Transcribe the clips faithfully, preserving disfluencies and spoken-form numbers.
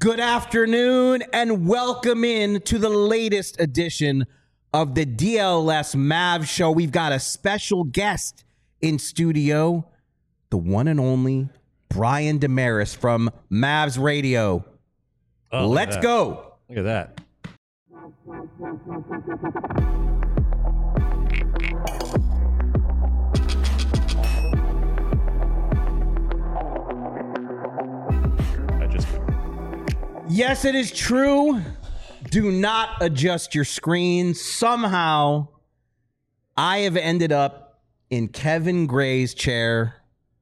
Good afternoon and welcome in to the latest edition of the D L S Mavs show. We've got a special guest in studio, the one and only Brian Dameris from Mavs Radio. Oh, Let's go. Look at that. I just Yes, it is true. Do not adjust your screen. Somehow, I have ended up in Kevin Gray's chair.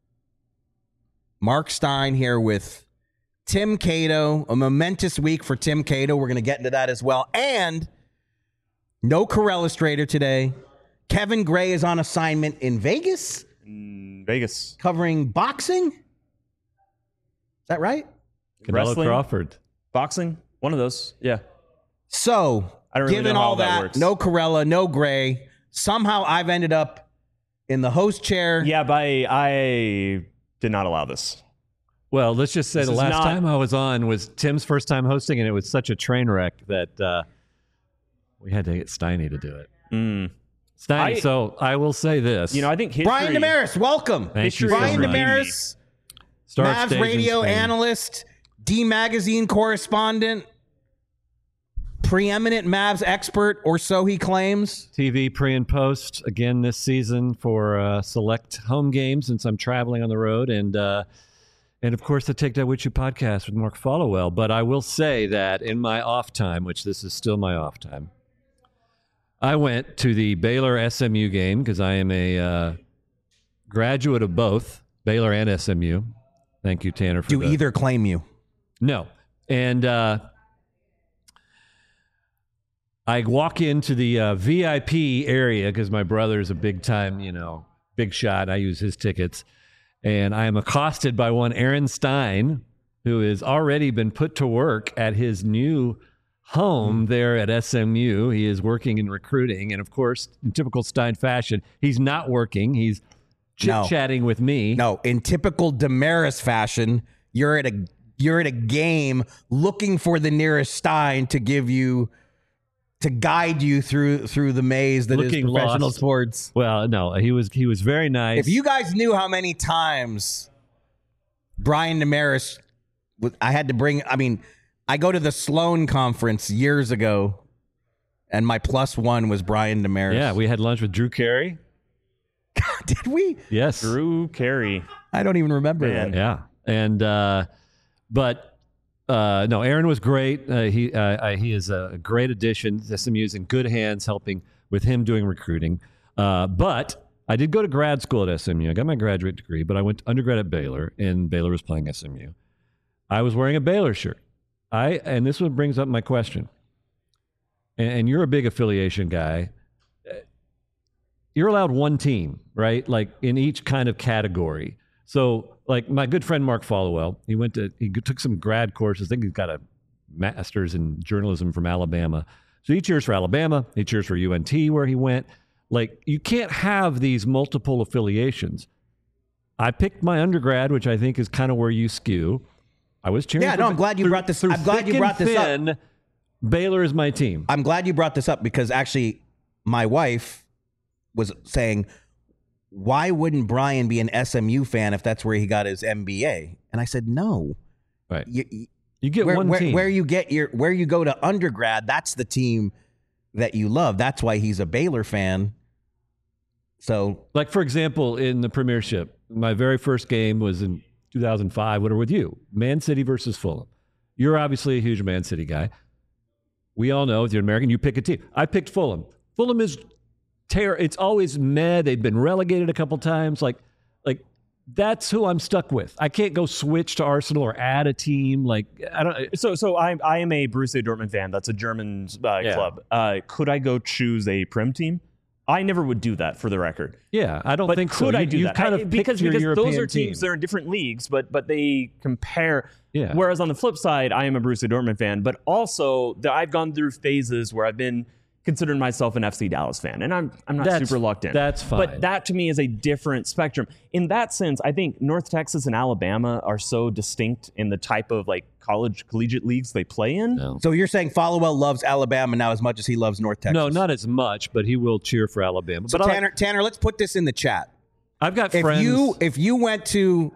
Mark Stein here with Tim Cato. A momentous week for Tim Cato. We're going to get into that as well. And no Corella Strader today. Kevin Gray is on assignment in Vegas. Mm, Vegas. Covering boxing. Is that right? Canelo Wrestling? Crawford. Boxing? One of those. Yeah. So, I don't really given know how all that that, works. no Corella, no Gray, somehow I've ended up in the host chair. Yeah, but I, I did not allow this. Well, let's just say This the is last not- time I was on was Tim's first time hosting, and it was such a train wreck that uh, we had to get Steiny to do it. Mm. Steiny, I- so I will say this. You know, I think history... Brian Dameris, welcome. Thank you so Brian much. Dameris, Star Mavs Stage in radio Spain. analyst, D Magazine correspondent, preeminent Mavs expert, or so he claims. T V pre and post again this season for uh, select home games since I'm traveling on the road, and uh, and of course the Take That With You podcast with Mark Followell. But I will say that in my off time, which this is still my off time, I went to the Baylor S M U game because I am a uh, graduate of both Baylor and S M U. Thank you, Tanner. For Do the, either claim you? No, and. Uh, I walk into the uh, V I P area because my brother's a big time, you know, big shot. I use his tickets. And I am accosted by one Aaron Stein, who has already been put to work at his new home there at S M U. He is working in recruiting. And of course, in typical Stein fashion, he's not working. He's No. chit-chatting with me. No, in typical Dameris fashion, you're at a you're at a game looking for the nearest Stein to give you to guide you through through the maze that Looking is professional lost. sports. Well, no, he was he was very nice. If you guys knew how many times Brian Dameris, w- I had to bring, I mean, I go to the Sloan conference years ago, and my plus one was Brian Dameris. Yeah, we had lunch with Drew Carey. Did we? Yes. Drew Carey. I don't even remember Man. that. Yeah, and uh, but uh, no, Aaron was great. Uh, he uh, uh, he is a great addition. S M U's in good hands, helping with him doing recruiting. Uh, but I did go to grad school at S M U. I got my graduate degree, but I went to undergrad at Baylor, and Baylor was playing S M U. I was wearing a Baylor shirt. I and this one brings up my question. And, and you're a big affiliation guy. You're allowed one team, right? Like in each kind of category. So, like my good friend Mark Followell, he went to he took some grad courses. I think he's got a master's in journalism from Alabama. So he cheers for Alabama. He cheers for U N T where he went. Like you can't have these multiple affiliations. I picked my undergrad, which I think is kind of where you skew. I was cheering. Yeah, for no, I'm glad you through- brought this- through I'm glad thick you and brought this up. thin, Baylor is my team. I'm glad you brought this up because actually my wife was saying, why wouldn't Brian be an S M U fan if that's where he got his M B A? And I said, no. Right. You, you- You get where, one where, team. where you get your where you go to undergrad, that's the team that you love. That's why he's a Baylor fan. So Like, for example, in the Premiership, my very first game was in two thousand five, whatever, with you. Man City versus Fulham. You're obviously a huge Man City guy. We all know, if you're an American, you pick a team. I picked Fulham. Fulham is terror. It's always meh. They've been relegated a couple times. Like, like that's who I'm stuck with. I can't go switch to Arsenal or add a team. Like, I don't. So, so I, I am a Borussia Dortmund fan. That's a German uh, Yeah. club. Uh, could I go choose a Prim team? I never would do that, for the record. Yeah, I don't But think so. could I You- do you that? kind I- of because picked your because European those are teams. team. They're in different leagues, but but they compare. Yeah. Whereas on the flip side, I am a Borussia Dortmund fan, but also the, I've gone through phases where I've been considering myself an F C Dallas fan, and I'm I'm not That's- super locked in. that's fine. But that to me is a different spectrum. In that sense, I think North Texas and Alabama are so distinct in the type of like college collegiate leagues they play in. No. So you're saying Followell loves Alabama now as much as he loves North Texas? No, not as much, but he will cheer for Alabama. So but I- Tanner, Tanner, let's put this in the chat. I've got If friends. you if you went to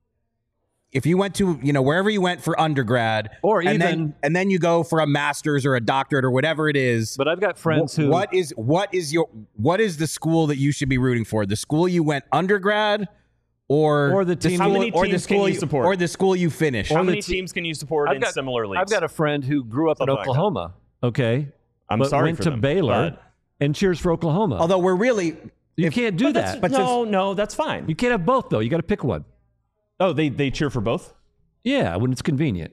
if you went to you know wherever you went for undergrad, Or and then even- and then you go for a master's or a doctorate or whatever it is. but I've got friends wh- who. what is what is your what is the school that you should be rooting for? The school you went undergrad, or Or the team- school, How many or the teams can school you support? or the school you finished? How Or the many te- teams can you support I've in got- similar leagues? I've got a friend who grew up Something in like that. Oklahoma. Okay, I'm but sorry went for to them, Baylor but- and cheers for Oklahoma. Although we're really you can't do That's- that. but no, no, that's fine. You can't have both though. You got to pick one. Oh, they they cheer for both. Yeah, when it's convenient.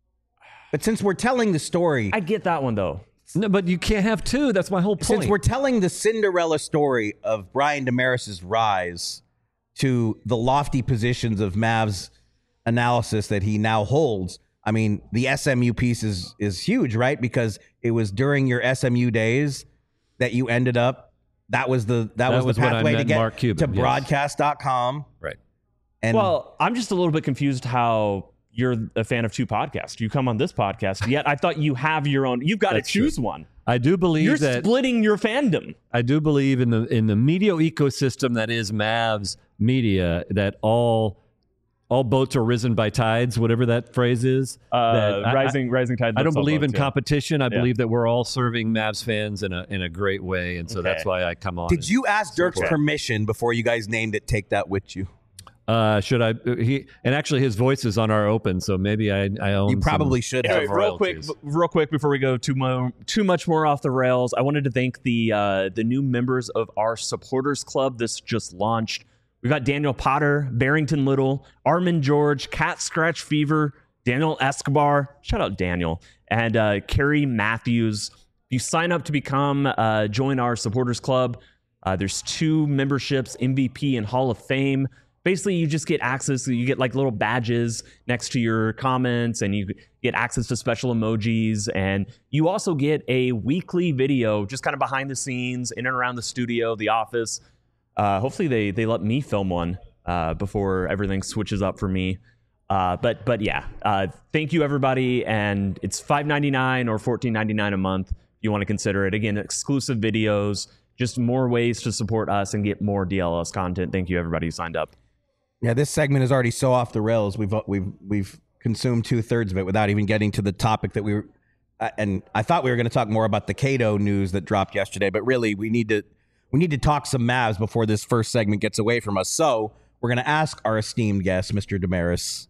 but since we're telling the story, I get that one though. No, but you can't have two. That's my whole point. since we're telling the Cinderella story of Brian Damaris's rise to the lofty positions of Mavs analysis that he now holds, I mean, the S M U piece is is huge, right? Because it was during your S M U days that you ended up. That was the that, That was, was the when I pathway to met get Mark Cuban, to yes. broadcast dot com. right. And Well, I'm just a little bit confused how you're a fan of two podcasts. You come on this podcast, yet I thought you have your own. You've got to That's true. choose one. I do believe You're that splitting your fandom. I do believe in the in the media ecosystem that is Mavs media, that all all boats are risen by tides, whatever that phrase is. Uh, that I- rising, rising tide. I, I don't lifts all believe in boats, yeah. competition. I Yeah. believe that we're all serving Mavs fans in a in a great way, and so Okay. that's why I come on. did and- you ask Dirk's cool. permission before you guys named it Take That With You? Uh, should I? He and actually his voice is on our open, so maybe I I own. You some- probably should Anyway, have. real quick, royalties. b- real quick before we go too mo- too much more off the rails, I wanted to thank the uh, the new members of our supporters club. This just launched. We got Daniel Potter, Barrington Little, Armin George, Cat Scratch Fever, Daniel Escobar. Shout out Daniel and uh, Carrie Matthews. If you sign up to become uh, join our supporters club, uh, there's two memberships: M V P and Hall of Fame. Basically, you just get access. You get like little badges next to your comments, and you get access to special emojis. And you also get a weekly video, just kind of behind the scenes, in and around the studio, the office. Uh, hopefully, they they let me film one uh, before everything switches up for me. Uh, but but yeah, uh, thank you everybody, and it's five ninety-nine or fourteen ninety-nine a month. If you want to consider it. Again, exclusive videos, just more ways to support us and get more D L S content. Thank you everybody who signed up. Yeah, this segment is already so off the rails. We've we've we've consumed two thirds of it without even getting to the topic that we were. Uh, and I thought we were going to talk more about the Cato news that dropped yesterday, but really we need to we need to talk some Mavs before this first segment gets away from us. So we're going to ask our esteemed guest, Mister Damaris,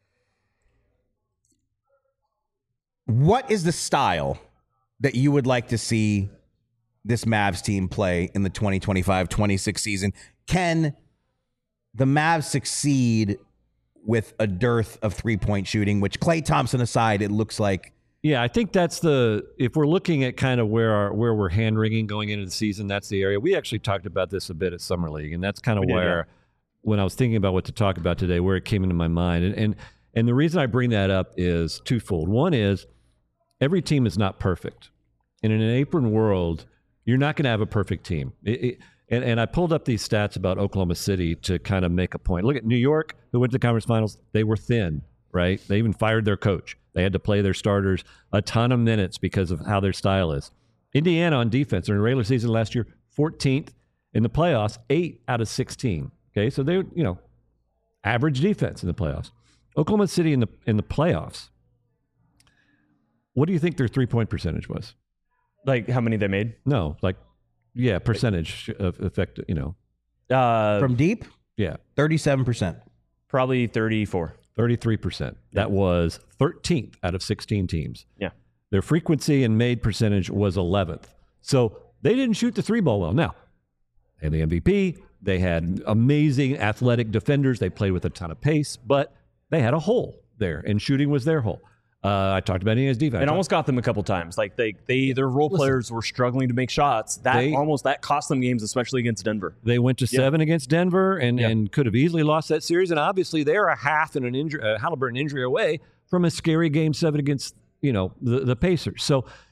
what is the style that you would like to see this Mavs team play in the twenty twenty-five twenty-six season? Can the Mavs succeed with a dearth of three-point shooting, which Klay Thompson aside, it looks like. Yeah, I think that's the if we're looking at kind of where our where we're hand wringing going into the season, that's the area. We actually talked about this a bit at Summer League, and that's kind of We did, where yeah. when I was thinking about what to talk about today, where it came into my mind. And and and the reason I bring that up is twofold. One is every team is not perfect. And in an apron world, you're not going to have a perfect team. It, it, and, and I pulled up these stats about Oklahoma City to kind of make a point. Look at New York, who went to the conference finals. They were thin, right? They even fired their coach. They had to play their starters a ton of minutes because of how their style is. Indiana on defense, in the regular season last year, fourteenth. In the playoffs, eight out of sixteen. Okay, so they, you know, average defense in the playoffs. Oklahoma City in the in the playoffs. What do you think their three-point percentage was? Like how many they made? No, like, yeah, percentage of effect, you know. Uh, From deep, Yeah, thirty-seven percent. probably thirty-four. thirty-three percent. That was thirteenth out of sixteen teams. Yeah. Their frequency and made percentage was eleventh. So they didn't shoot the three ball well. Now, they had the M V P. They had amazing athletic defenders. They played with a ton of pace, but they had a hole there, and shooting was their hole. Uh, I talked about Indiana's defense. It almost got them a couple times. Like they, they their role players were struggling to make shots. That They- almost that cost them games, especially against Denver. They went to seven against Denver and, Yeah. and could have easily lost that series. And obviously, they're a half and an injury, a Halliburton injury away from a scary game seven against, you know, the, the Pacers. So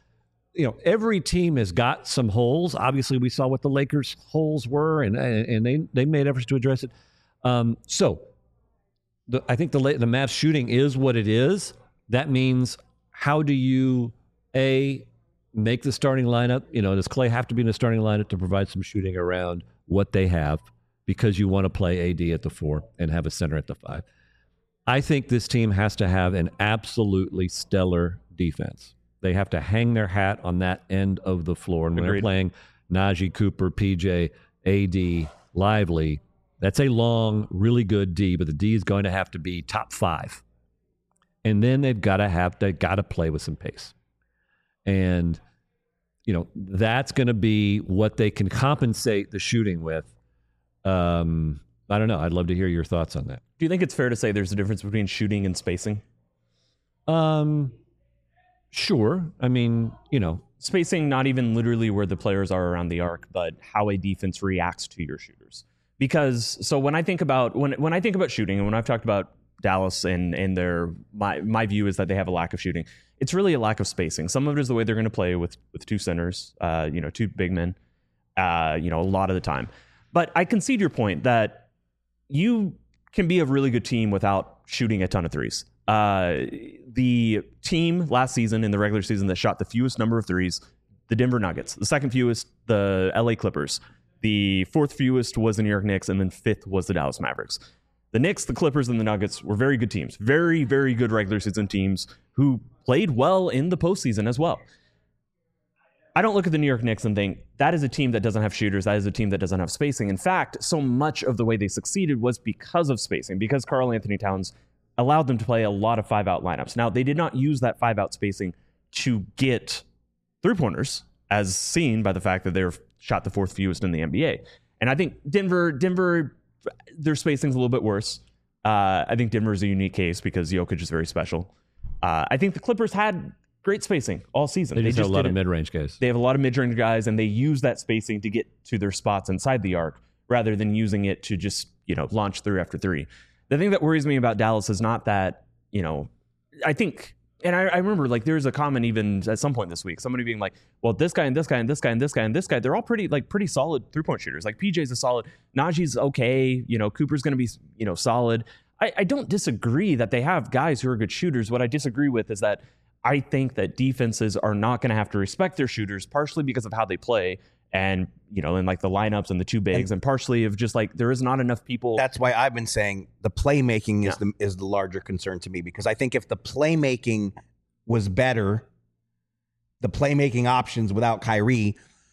you know, every team has got some holes. Obviously, we saw what the Lakers' holes were, and and they they made efforts to address it. Um, so, the, I think the the Mavs shooting is what it is. That means, how do you a make the starting lineup? You know, does Clay have to be in the starting lineup to provide some shooting around what they have? Because you want to play A D at the four and have a center at the five. I think this team has to have an absolutely stellar defense. They have to hang their hat on that end of the floor. And when Agreed. they're playing Najee, Cooper, P J, A D, Lively, that's a long, really good D, but the D is going to have to be top five. And then they've got to have they got to play with some pace. And, you know, that's going to be what they can compensate the shooting with. Um, I don't know. I'd love to hear your thoughts on that. Do you think it's fair to say there's a difference between shooting and spacing? Um, sure. I mean, you know, Spacing, not even literally where the players are around the arc, but how a defense reacts to your shooters. Because so when I think about when when I think about shooting, and when I've talked about Dallas and and their my my view is that they have a lack of shooting. It's really a lack of spacing. Some of it is the way they're going to play with with two centers, uh, you know, two big men, uh, you know, a lot of the time. But I concede your point that you can be a really good team without shooting a ton of threes. Uh, the team last season in the regular season that shot the fewest number of threes, the Denver Nuggets. The second fewest, the L A Clippers. The fourth fewest was the New York Knicks, and then fifth was the Dallas Mavericks. The Knicks, the Clippers, and the Nuggets were very good teams. Very, very good regular season teams who played well in the postseason as well. I don't look at the New York Knicks and think that is a team that doesn't have shooters. That is a team that doesn't have spacing. In fact, so much of the way they succeeded was because of spacing, because Karl Anthony Towns allowed them to play a lot of five-out lineups. Now, they did not use that five-out spacing to get three-pointers, as seen by the fact that they're shot the fourth fewest in the N B A. And I think Denver, Denver, their spacing's a little bit worse. Uh, I think Denver is a unique case because Jokic is very special. Uh, I think the Clippers had great spacing all season. they just, they just have a lot didn't. of mid-range guys. They have a lot of mid-range guys, and they use that spacing to get to their spots inside the arc rather than using it to just, you know, launch three after three. The thing that worries me about Dallas is not that, you know, I think, and I, I remember like there's a comment even at some point this week, somebody being like, well, this guy and this guy and this guy and this guy and this guy, they're all pretty like pretty solid three-point shooters. Like P J's a solid, Najee's okay, you know, Cooper's going to be, you know, solid. I, I don't disagree that they have guys who are good shooters. What I disagree with is that I think that defenses are not going to have to respect their shooters, partially because of how they play. And, you know, and like the lineups and the two bigs, and, and partially of just like there is not enough people. That's why I've been saying the playmaking Yeah. is the is the larger concern to me, because I think if the playmaking was better, the playmaking options without Kyrie,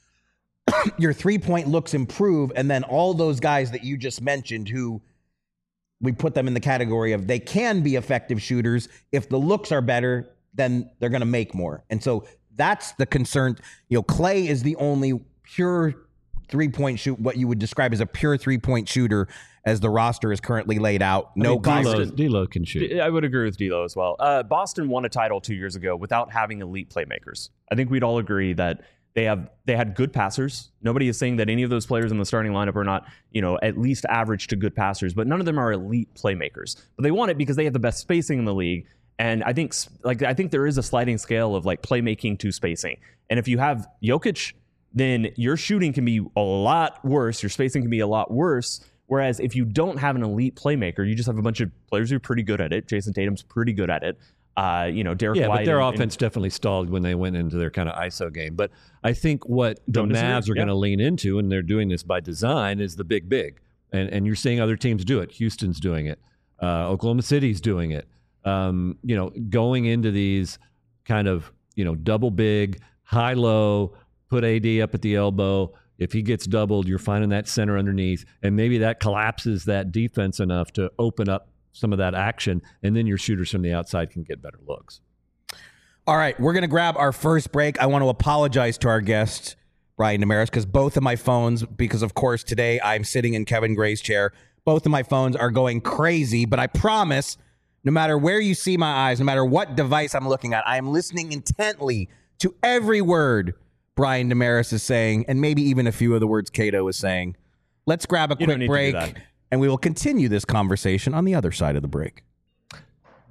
your three-point looks improve, and then all those guys that you just mentioned who we put them in the category of they can be effective shooters. If the looks are better, then they're going to make more. And so that's the concern. You know, Clay is the only pure three-point shoot, what you would describe as a pure three-point shooter as the roster is currently laid out. No I mean, D'Lo, Boston. D'Lo can shoot. I would agree with D'Lo as well. Uh, Boston won a title two years ago without having elite playmakers. I think we'd all agree that they have they had good passers. Nobody is saying that any of those players in the starting lineup are not, you know, at least average to good passers, but none of them are elite playmakers. But they won it because they have the best spacing in the league. And I think like I think there is a sliding scale of like playmaking to spacing. And if you have Jokic, then your shooting can be a lot worse. Your spacing can be a lot worse. Whereas if you don't have an elite playmaker, you just have a bunch of players who are pretty good at it. Jason Tatum's pretty good at it. Uh, you know, Derek Yeah, White. but their and, offense definitely stalled when they went into their kind of I S O game. But I think what the Don't disagree. Mavs are Yeah. going to lean into, and they're doing this by design, is the big, big. And and you're seeing other teams do it. Houston's doing it. Uh, Oklahoma City's doing it. Um, you know, going into these kind of, you know, double big, high low, put A D up at the elbow. If he gets doubled, you're finding that center underneath, and maybe that collapses that defense enough to open up some of that action, and then your shooters from the outside can get better looks. All right, we're going to grab our first break. I want to apologize to our guest, Brian Damaris, because both of my phones, because of course today I'm sitting in Kevin Gray's chair, both of my phones are going crazy, but I promise, no matter where you see my eyes, no matter what device I'm looking at, I am listening intently to every word Brian Damaris is saying, and maybe even a few of the words Cato is saying. Let's grab a You don't quick need to do break, that. and we will continue this conversation on the other side of the break.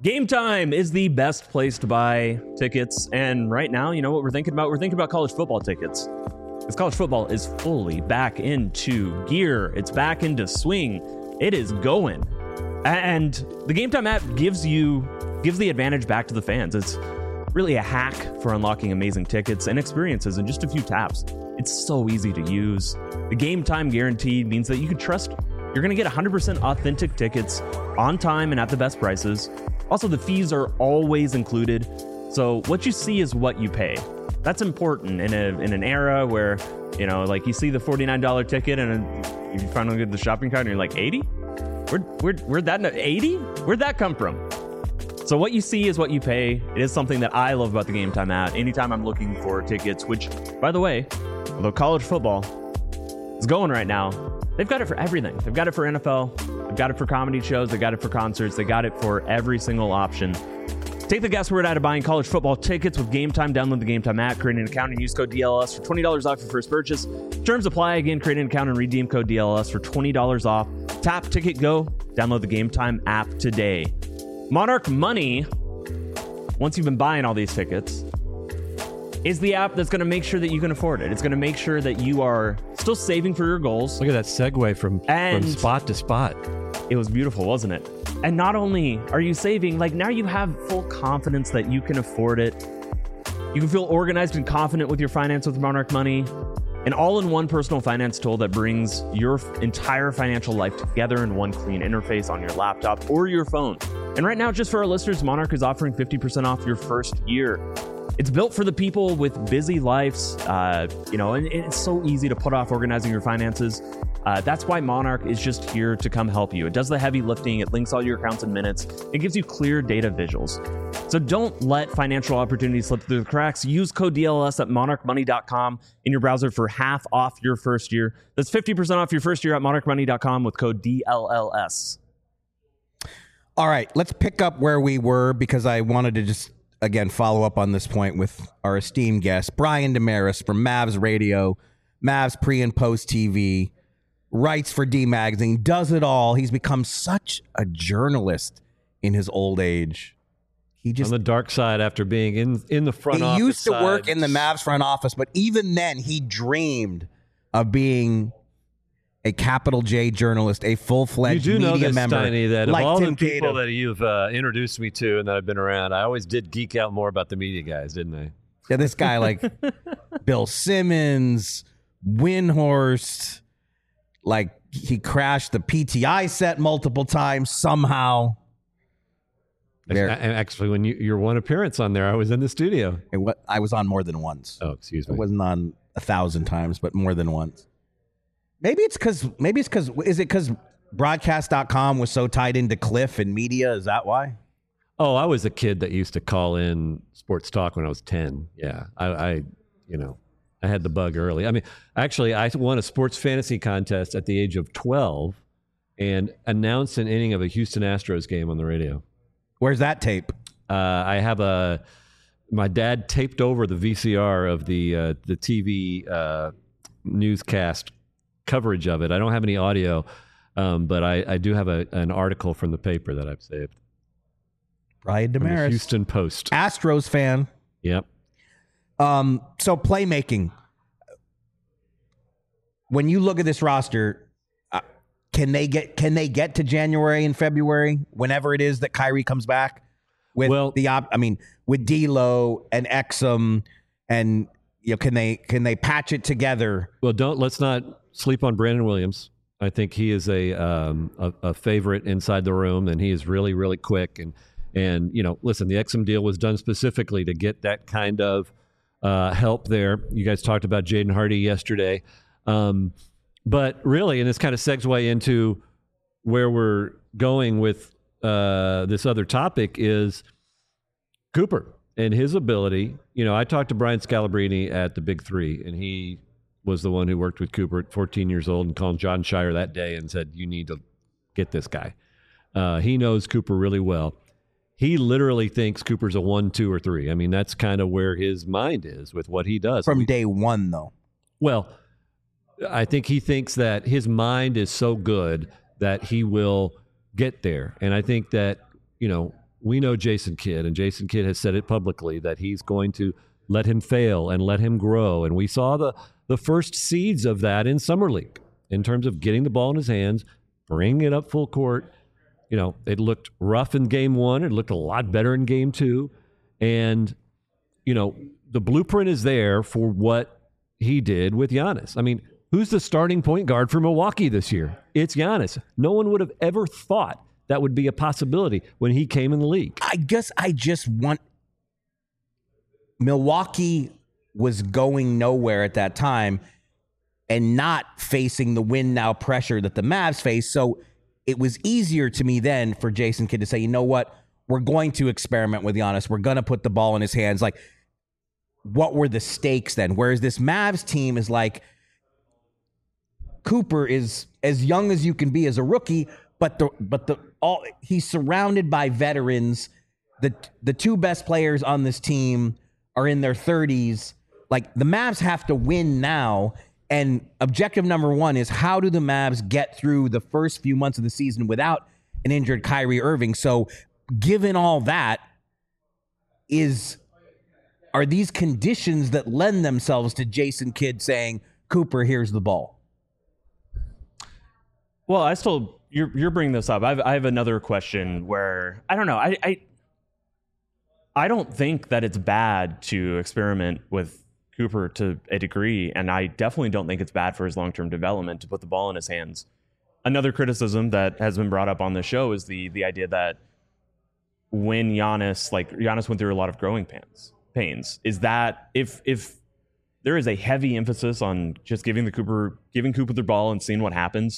Game Time is the best place to buy tickets. And right now, you know what we're thinking about? We're thinking about college football tickets. Because college football is fully back into gear. It's back into swing. It is going. And the Game Time app gives you, gives the advantage back to the fans. It's really a hack for unlocking amazing tickets and experiences in just a few taps. It's so easy to use. The Game Time guarantee means that you can trust you're going to get one hundred percent authentic tickets on time and at the best prices. Also, the fees are always included. So what you see is what you pay. That's important in a in an era where, you know, like you see the forty-nine dollars ticket and you finally get the shopping cart and you're like, eighty? Where, where, where'd that, eighty? Where'd that come from? So what you see is what you pay. It is something that I love about the Game Time app. Anytime I'm looking for tickets, which, by the way, although college football is going right now, they've got it for everything. They've got it for N F L. They've got it for comedy shows. They've got it for concerts. They got it for every single option. Take the guesswork out of buying college football tickets with Game Time. Download the Game Time app, create an account, and use code D L S for twenty dollars off your first purchase. Terms apply. Again, create an account and redeem code D L S for twenty dollars off. Tap, ticket, go. Download the Game Time app today. Monarch Money, once you've been buying all these tickets, is the app that's going to make sure that you can afford it. It's going to make sure that you are still saving for your goals. Look at that segue from, And- from spot to spot. It was beautiful, wasn't it? And not only are you saving, like now you have full confidence that you can afford it. You can feel organized and confident with your finance with Monarch Money. An all-in-one personal finance tool that brings your f- entire financial life together in one clean interface on your laptop or your phone. And right now, just for our listeners, Monarch is offering fifty percent off your first year. It's built for the people with busy lives, uh, you know, and it's so easy to put off organizing your finances. Uh, that's why Monarch is just here to come help you. It does the heavy lifting. It links all your accounts in minutes. It gives you clear data visuals. So don't let financial opportunities slip through the cracks. Use code D L S at monarch money dot com in your browser for half off your first year. That's fifty percent off your first year at monarch money dot com with code D L L S. All right, let's pick up where we were because I wanted to just, again, follow up on this point with our esteemed guest, Brian Damaris from Mavs Radio, Mavs pre and post T V, writes for D Magazine, does it all. He's become such a journalist in his old age. He just On the dark side after being in, in the front he office used to side. work in the Mavs front office, but even then he dreamed of being a capital J journalist, a You full-fledged do know media this, member. Steiny, that like of all Tim the people Tatum. that you've uh, introduced me to and that I've been around, I always did geek out more about the media guys, didn't I? Yeah, this guy like Bill Simmons, Windhorst, like he crashed the P T I set multiple times somehow. There. And actually, when you, your one appearance on there, I was in the studio. It wa- I was on more than once. Oh, excuse I me. wasn't on a thousand times, but more than once. Maybe it's because, maybe it's because, is it because broadcast dot com was so tied into Cliff and media? Is that why? Oh, I was a kid that used to call in sports talk when I was ten. Yeah, I, I you know, I had the bug early. I mean, actually, I won a sports fantasy contest at the age of twelve and announced an inning of a Houston Astros game on the radio. Where's that tape? Uh, I have a, my dad taped over the V C R of the uh, the T V uh, newscast coverage of it. I don't have any audio, um, but I, I do have a, an article from the paper that I've saved. Brian From the Damaris. Houston Post. Astros fan. Yep. Um, so playmaking. When you look at this roster, uh, can they get can they get to January and February whenever it is that Kyrie comes back? With Well- the op, I mean, with D'Lo and Exum, and you know, can they can they patch it together? Well, don't let's not sleep on Brandon Williams. I think he is a um, a, a favorite inside the room, and he is really really quick. And and you know, listen, the Exum deal was done specifically to get that kind of uh, help there. You guys talked about Jaden Hardy yesterday, um, but really, and this kind of segues into where we're going with uh, this other topic is Cooper and his ability. You know, I talked to Brian Scalabrine at the Big Three, and he was the one who worked with Cooper at fourteen years old and called John Shire that day and said, you need to get this guy. Uh, he knows Cooper really well. He literally thinks Cooper's a one, two, or three. I mean, that's kind of where his mind is with what he does. From day one, though. Well, I think he thinks that his mind is so good that he will get there. And I think that, you know, we know Jason Kidd, and Jason Kidd has said it publicly that he's going to let him fail and let him grow. And we saw the, the first seeds of that in Summer League in terms of getting the ball in his hands, bringing it up full court. You know, it looked rough in game one. It looked a lot better in game two. And, you know, the blueprint is there for what he did with Giannis. I mean, who's the starting point guard for Milwaukee this year? It's Giannis. No one would have ever thought that would be a possibility when he came in the league. I guess I just want... Milwaukee was going nowhere at that time and not facing the win now pressure that the Mavs face. So it was easier to me then for Jason Kidd to say, you know what, we're going to experiment with Giannis. We're going to put the ball in his hands. Like, what were the stakes then? Whereas this Mavs team is like, Cooper is as young as you can be as a rookie, but the but the all he's surrounded by veterans. The the two best players on this team are in their thirties. Like, the Mavs have to win now. And objective number one is, how do the Mavs get through the first few months of the season without an injured Kyrie Irving? So given all that, is are these conditions that lend themselves to Jason Kidd saying, Cooper, here's the ball? Well, I still, you're you're bringing this up. I've, I have another question where, I don't know, I, I I don't think that it's bad to experiment with Cooper to a degree, and I definitely don't think it's bad for his long-term development to put the ball in his hands. Another criticism that has been brought up on the show is the the idea that when Giannis, like Giannis went through a lot of growing pains, pains, is that if if there is a heavy emphasis on just giving the Cooper giving Cooper the ball and seeing what happens,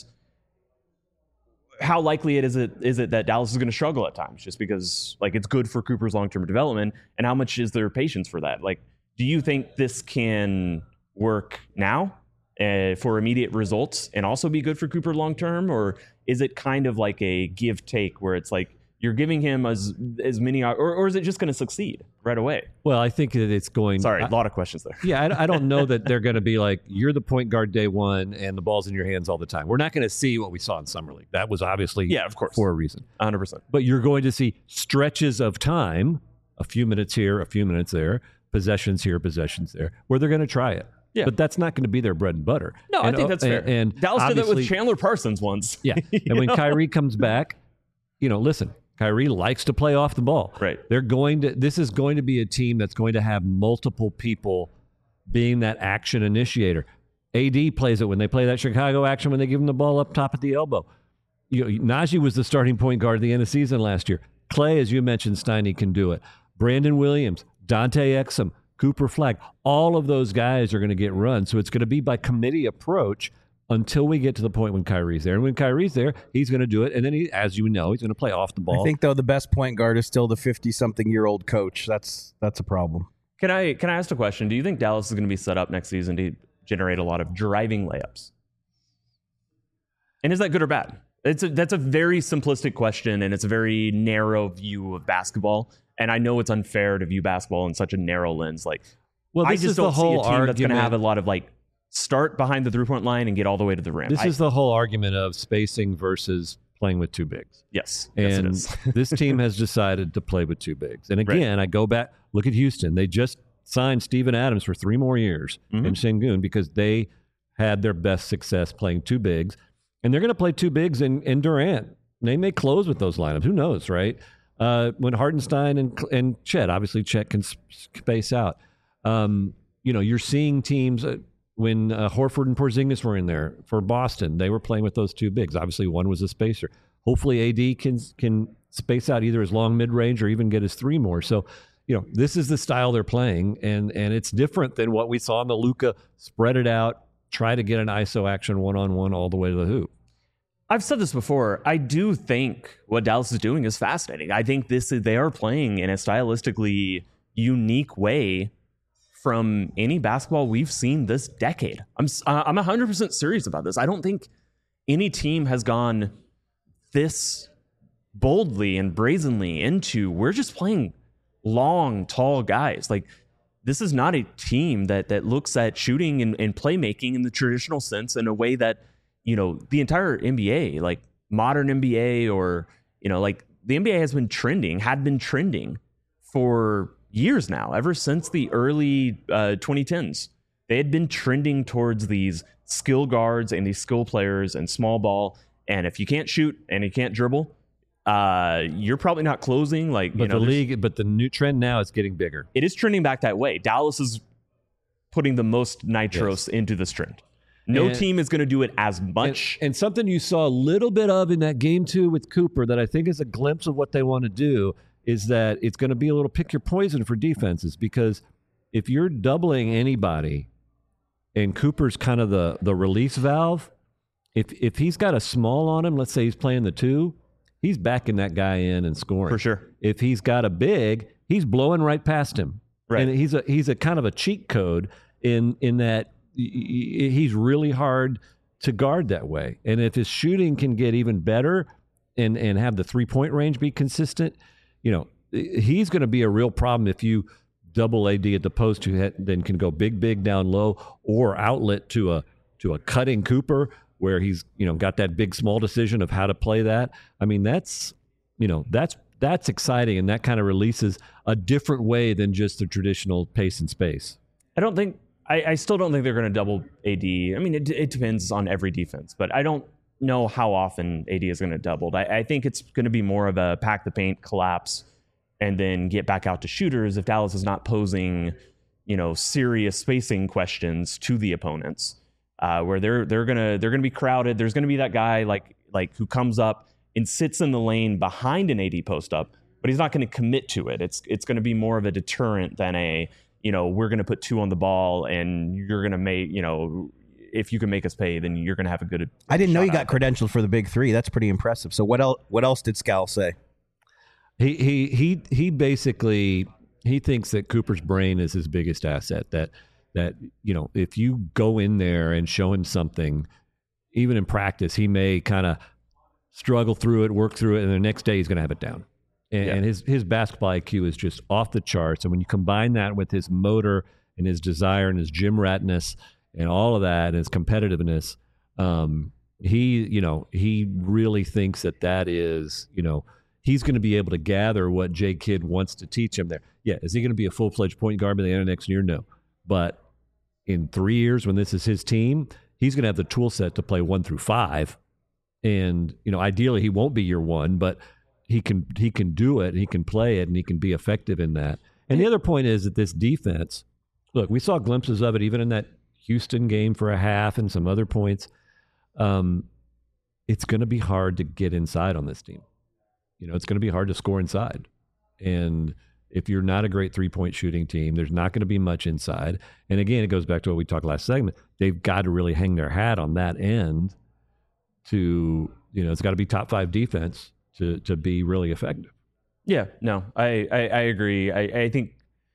how likely it is it is it that Dallas is going to struggle at times just because, like, it's good for Cooper's long-term development, and how much is there patience for that? Like, do you think this can work now uh, for immediate results and also be good for Cooper long-term? Or is it kind of like a give-take where it's like you're giving him as as many, or, or is it just going to succeed right away? Well, I think that it's going... Sorry, I, a lot of questions there. Yeah, I, I don't know that they're going to be like, you're the point guard day one and the ball's in your hands all the time. We're not going to see what we saw in Summer League. That was obviously yeah, of course, for a reason. one hundred percent. But you're going to see stretches of time, a few minutes here, a few minutes there, possessions here, possessions there, where they're going to try it. Yeah. But that's not going to be their bread and butter. No, and, I think that's fair. And, and Dallas did that with obviously- Chandler Parsons once. Yeah. And when know? Kyrie comes back, you know, listen, Kyrie likes to play off the ball. Right. They're going to, this is going to be a team that's going to have multiple people being that action initiator. A D plays it when they play that Chicago action, when they give him the ball up top at the elbow. You know, Najee was the starting point guard at the end of the season last year. Clay, as you mentioned, Steiny can do it. Brandon Williams, Dante Exum, Cooper Flagg, all of those guys are going to get run. So it's going to be by committee approach until we get to the point when Kyrie's there. And when Kyrie's there, he's going to do it. And then, he, as you know, he's going to play off the ball. I think, though, the best point guard is still the fifty-something-year-old coach. That's that's a problem. Can I can I ask a question? Do you think Dallas is going to be set up next season to generate a lot of driving layups? And is that good or bad? It's a, that's a very simplistic question, and it's a very narrow view of basketball. And I know it's unfair to view basketball in such a narrow lens. Like, well, this I just is don't the whole see a team argument. that's going to have a lot of like start behind the three-point line and get all the way to the rim. This I, is the whole argument of spacing versus playing with two bigs. yes, And yes, it is. this team has decided to play with two bigs. And again, right. I go back, look at Houston. They just signed Steven Adams for three more years mm-hmm. in Sengun because they had their best success playing two bigs. And they're going to play two bigs in, in Durant. They may close with those lineups. Who knows, right? Uh, when Hardenstein and and Chet, obviously Chet can space out. Um, you know, you're seeing teams... Uh, When uh, Horford and Porzingis were in there for Boston, they were playing with those two bigs. Obviously, one was a spacer. Hopefully, A D can can space out either his long mid-range or even get his three more. So, you know, this is the style they're playing, and and it's different than what we saw in the Luka spread it out, try to get an I S O action one-on-one all the way to the hoop. I've said this before. I do think what Dallas is doing is fascinating. I think this is, they are playing in a stylistically unique way from any basketball we've seen this decade. I'm uh, I'm one hundred percent serious about this. I don't think any team has gone this boldly and brazenly into, we're just playing long, tall guys. Like, this is not a team that that looks at shooting and, and playmaking in the traditional sense in a way that, you know, the entire N B A, like modern N B A, or, you know, like the N B A has been trending, had been trending for years now, ever since the early uh, twenty tens. They had been trending towards these skill guards and these skill players and small ball. And if you can't shoot and you can't dribble, uh, you're probably not closing. Like, But you know, the league, but the new trend now is getting bigger. it is trending back that way. Dallas is putting the most nitros Yes. into this trend. No And- team is going to do it as And, much. and something you saw a little bit of in that game two with Cooper that I think is a glimpse of what they want to do is that it's going to be a little pick your poison for defenses, because if you're doubling anybody and Cooper's kind of the, the release valve, if if he's got a small on him, let's say he's playing the two, he's backing that guy in and scoring. For sure. If he's got a big, he's blowing right past him. Right. And he's a he's a kind of a cheat code in in that y- y- he's really hard to guard that way. And if his shooting can get even better and and have the three-point range be consistent, you know, he's going to be a real problem if you double A D at the post, who then can go big, big down low, or outlet to a to a cutting Cooper where he's, you know, got that big small decision of how to play that. I mean, that's, you know, that's that's exciting, and that kind of releases a different way than just the traditional pace and space. I don't think I, I still don't think they're going to double A D. I mean, it, it depends on every defense, but I don't know how often A D is going to double. I, I think it's going to be more of a pack the paint, collapse, and then get back out to shooters if Dallas is not posing, you know, serious spacing questions to the opponents, uh, where they're they're gonna they're gonna be crowded. There's gonna be that guy like like who comes up and sits in the lane behind an A D post up, but he's not going to commit to it. It's it's going to be more of a deterrent than a, you know, we're going to put two on the ball and you're going to make, you know, if you can make us pay, then you're going to have a good. I didn't know you shot got at it. credentialed for the big three. That's pretty impressive. So what else? What else did Scal say? He he he he basically he thinks that Cooper's brain is his biggest asset. That that you know, if you go in there and show him something, even in practice, he may kind of struggle through it, work through it, and the next day he's going to have it down. And, Yeah. and his his basketball I Q is just off the charts. And when you combine that with his motor and his desire and his gym ratness and all of that and his competitiveness, um, he you know he really thinks that that is you know. He's going to be able to gather what Jay Kidd wants to teach him there. Yeah, is he going to be a full-fledged point guard by the end of next year? No. But in three years, when this is his team, he's going to have the tool set to play one through five. And, you know, ideally he won't be year one, but he can he can do it, he can play it, and he can be effective in that. And the other point is that this defense, look, we saw glimpses of it even in that Houston game for a half and some other points. Um, it's going to be hard to get inside on this team. You know, it's going to be hard to score inside. And if you're not a great three-point shooting team, there's not going to be much inside. And again, it goes back to what we talked last segment. They've got to really hang their hat on that end to, you know, it's got to be top five defense to to be really effective. Yeah, no, I I, I agree. I, I think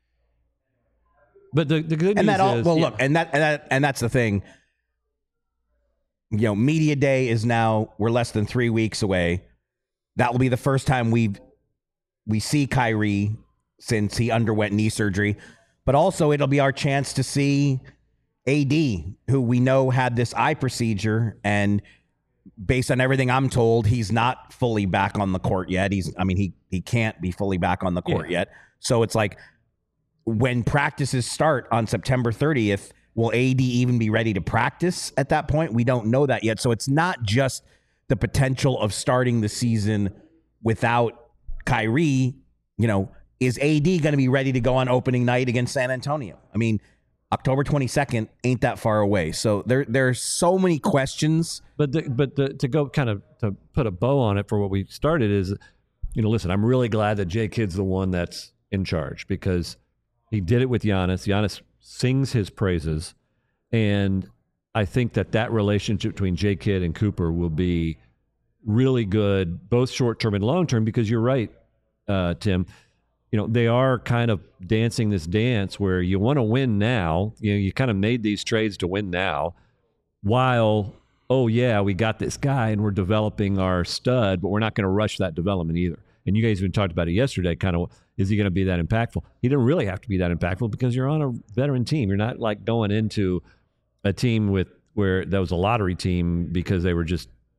But the, the good And news that all is, well, yeah, look, and that and that and that's the thing. You know, media day is now we're less than three weeks away. That will be the first time we we see Kyrie since he underwent knee surgery, but also it'll be our chance to see A D, who we know had this eye procedure, and based on everything I'm told, he's not fully back on the court yet. He's, I mean, he he can't be fully back on the court Yeah. yet. So it's like when practices start on September thirtieth, will A D even be ready to practice at that point? We don't know that yet. So it's not just the potential of starting the season without Kyrie. You know, is A D going to be ready to go on opening night against San Antonio? I mean, October twenty-second ain't that far away. So there there's so many questions. But the, but the, to go kind of to put a bow on it for what we started is, you know, listen, I'm really glad that Jay Kidd's the one that's in charge because he did it with Giannis. Giannis sings his praises, and I think that that relationship between Jay Kidd and Cooper will be really good, both short term and long term. Because you're right, uh, Tim. You know, they are kind of dancing this dance where you want to win now. You know, you kind of made these trades to win now, while, oh, yeah, we got this guy and we're developing our stud, but we're not going to rush that development either. And you guys even talked about it yesterday, kind of, is he going to be that impactful? He didn't really have to be that impactful because you're on a veteran team. You're not like going into a team with where that was a lottery team because they were just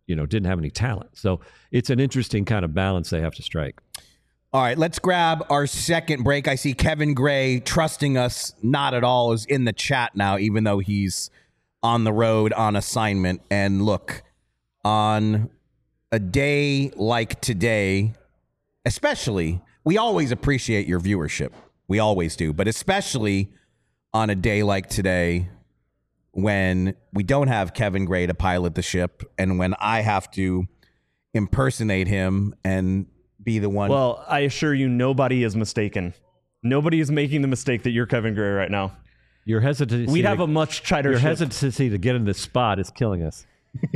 you know, didn't have any talent. So it's an interesting kind of balance they have to strike. All right, let's grab our second break. I see Kevin Gray trusting us not at all is in the chat now, even though he's on the road on assignment. And look, on a day like today, especially, we always appreciate your viewership. We always do. But especially on a day like today, when we don't have Kevin Gray to pilot the ship and when I have to impersonate him and be the one. Well, I assure you, nobody is mistaken. Nobody is making the mistake that you're Kevin Gray right now. Your hesitancy. We'd to, have a much tighter Your ship. hesitancy to get in this spot is killing us.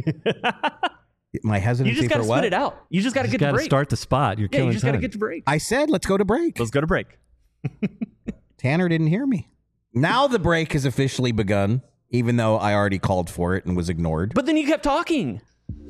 My hesitancy You just got to for what? spit it out. You just got to You get got to to break. start the spot. You're yeah, killing you just got to time. get to break. I said, let's go to break. Let's go to break. Tanner didn't hear me. Now the break has officially begun, even though I already called for it and was ignored. But then you kept talking.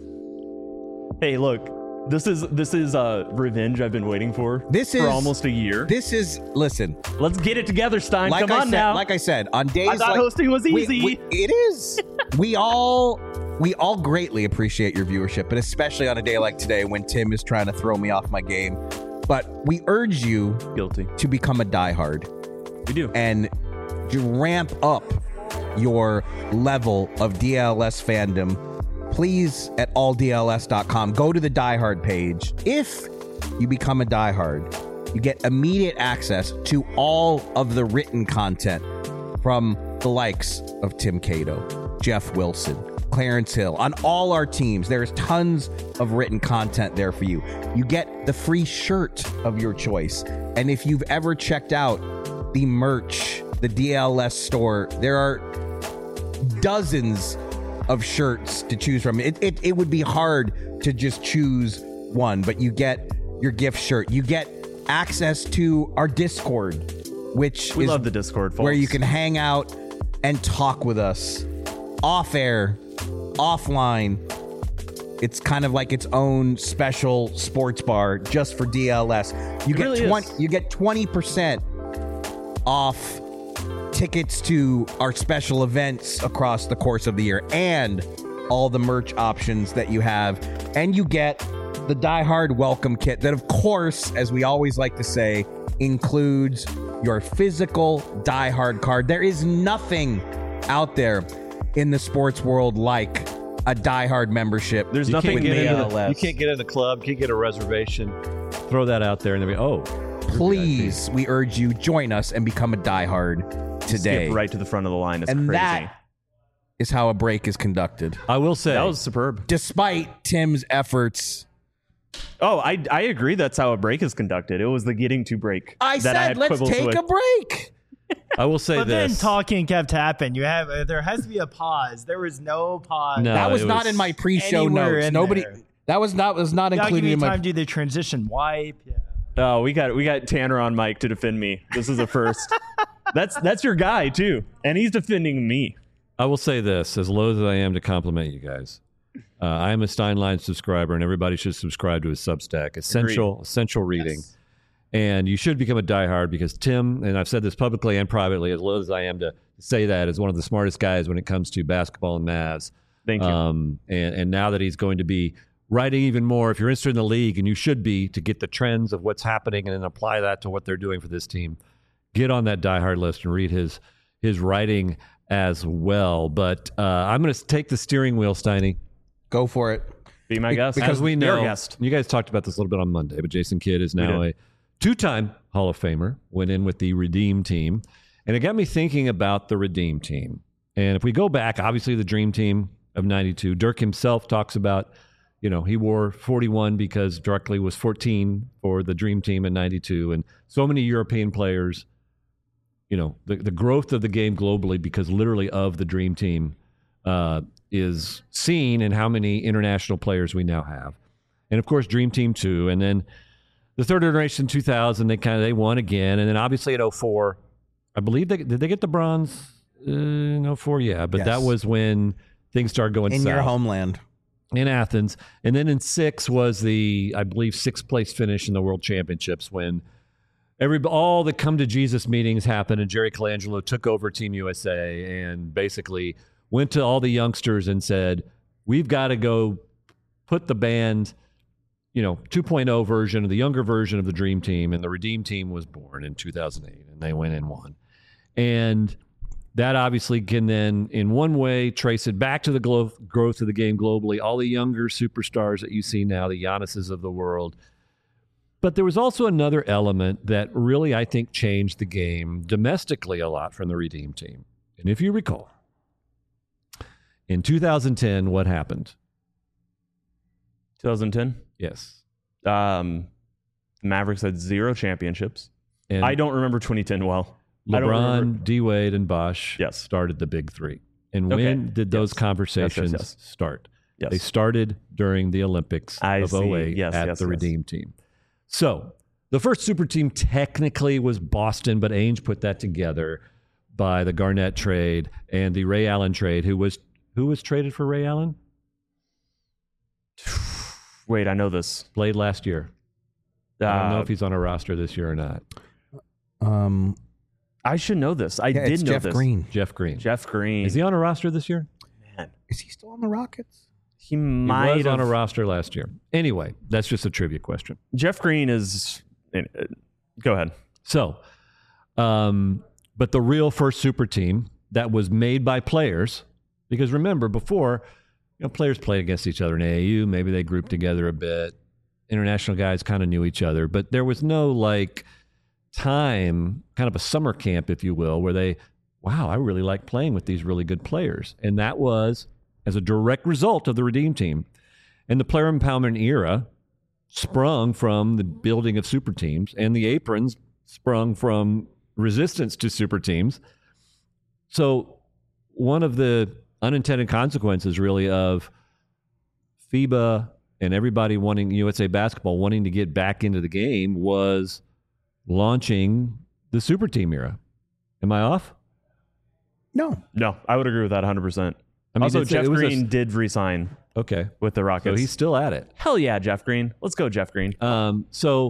Hey, look. This is this is uh, revenge I've been waiting for. This for is- almost a year. This is, listen, Let's get it together, Stein. like Come I on said, now. like I said, on days I thought like hosting was we- easy. we- it is. we all we all greatly appreciate your viewership, but especially on a day like today when Tim is trying to throw me off my game. But we urge you Guilty. to become a diehard We do. and to ramp up your level of D L S fandom. Please, at all D L S dot com, go to the diehard page. If you become a diehard, you get immediate access to all of the written content from the likes of Tim Cato, Jeff Wilson, Clarence Hill, on all our teams. There's tons of written content there for you. You get the free shirt of your choice. And if you've ever checked out the merch, the D L S store, there are dozens of shirts to choose from. It, it, it would be hard to just choose one, but you get your gift shirt. You get access to our Discord, which We is love the Discord, folks. where you can hang out and talk with us off air, offline. It's kind of like its own special sports bar just for D L S. You It get really twenty is. you get twenty percent off tickets to our special events across the course of the year and all the merch options that you have. And you get the Die Hard welcome kit that, of course, as we always like to say, includes your physical Die Hard card. There is nothing out there in the sports world like a Die Hard membership. There's You nothing can't, get D into L S. the, you can't get in the club, can't get a reservation. Throw that out there and then be, oh, Please, we urge you, join us and become a Die Hard today. Skip right to the front of the line. It's and crazy. that is how a break is conducted. I will say that was superb. Despite Tim's efforts, Oh, I I agree. That's how a break is conducted. It was the getting to break. I that said, I had let's quibbles take with. a break. I will say But then this. talking kept happening. You have uh, there has to be a pause. There was no pause. No. that was it not was in my pre-show anywhere notes. in Nobody. there. That was not was not Y'all give included me in my. time to do the transition wipe. Yeah. Oh, we got we got Tanner on mic to defend me. This is a first. that's that's your guy too, and he's defending me. I will say this, as loath as I am to compliment you guys. Uh, I am a Steinline subscriber, and everybody should subscribe to his Substack. Essential, Agreed. essential reading. Yes. And you should become a diehard because Tim, and I've said this publicly and privately, as loath as I am to say that, is one of the smartest guys when it comes to basketball and Mavs. Thank you. Um, and, and now that he's going to be writing even more, if you're interested in the league, and you should be, to get the trends of what's happening and then apply that to what they're doing for this team, get on that diehard list and read his his writing as well. But uh, I'm going to take the steering wheel, Steiny. Go for it. Be my guest. Because we Be our know, guest. you guys talked about this a little bit on Monday, but Jason Kidd is now did. a two-time Hall of Famer, went in with the Redeem Team. And it got me thinking about the Redeem Team. And if we go back, obviously the Dream Team of ninety-two, Dirk himself talks about, you know, he wore forty-one because Druckley was fourteen for the Dream Team in ninety-two. And so many European players, you know, the, the growth of the game globally because literally of the Dream Team uh, is seen in how many international players we now have. And of course, Dream Team two. And then the third iteration two thousand, they kind of, they won again. And then obviously at oh four, I believe they, did they get the bronze uh, in oh four? Yeah, but Yes. that was when things started going In south. your homeland. In Athens. And then in six was the, I believe, sixth place finish in the World Championships when every all the come to Jesus meetings happened and Jerry Colangelo took over Team U S A and basically went to all the youngsters and said, we've got to go put the band, you know, two point oh version of the younger version of the Dream Team, and the Redeem Team was born in two thousand eight, and they went and won. And that obviously can then, in one way, trace it back to the glo- growth of the game globally, all the younger superstars that you see now, the Giannis's of the world. But there was also another element that really, I think, changed the game domestically a lot from the Redeem Team. And if you recall, in two thousand ten, what happened? twenty ten? Yes. Um, Mavericks had zero championships. And I don't remember twenty ten well. I don't LeBron, remember. D-Wade, and Bosh Yes. started the big three. And Okay. when did those Yes. conversations Yes, yes, yes. start? Yes. They started during the Olympics I of see. oh eight Yes, at yes, the yes. Redeem Team. So the first super team technically was Boston, but Ainge put that together by the Garnett trade and the Ray Allen trade. Who was who was traded for Ray Allen? Wait, I know this. Played last year. I don't know Uh, if he's on a roster this year or not. Um, I should know this. I yeah, did it's know Jeff this. Green. Jeff Green. Jeff Green. Is he on a roster this year? Man, Is he still on the Rockets? he He might was have. on a roster last year. Anyway, that's just a trivia question. Jeff Green is. uh, Go ahead. So, um, but the real first super team that was made by players, because remember before, you know, players played against each other in A A U. Maybe they grouped together a bit. International guys kind of knew each other, but there was no like time, kind of a summer camp, if you will, where they, wow, I really like playing with these really good players. And that was as a direct result of the Redeem Team. And the player empowerment era sprung from the building of super teams, and the aprons sprung from resistance to super teams. So one of the unintended consequences really of FIBA and everybody wanting U S A Basketball wanting to get back into the game was launching the super team era. Am I off? No. No, I would agree with that one hundred percent. I mean, Also, it's- Jeff it was a- Green did resign Okay. with the So Rockets. he's still at it. Hell yeah, Jeff Green. Let's go, Jeff Green. Um, so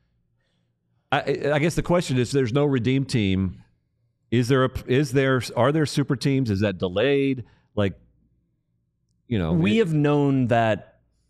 I, I guess the question is, there's no Redeem Team. Is there a, is there, are there super teams? Is that delayed? Like, you know, we it- have known that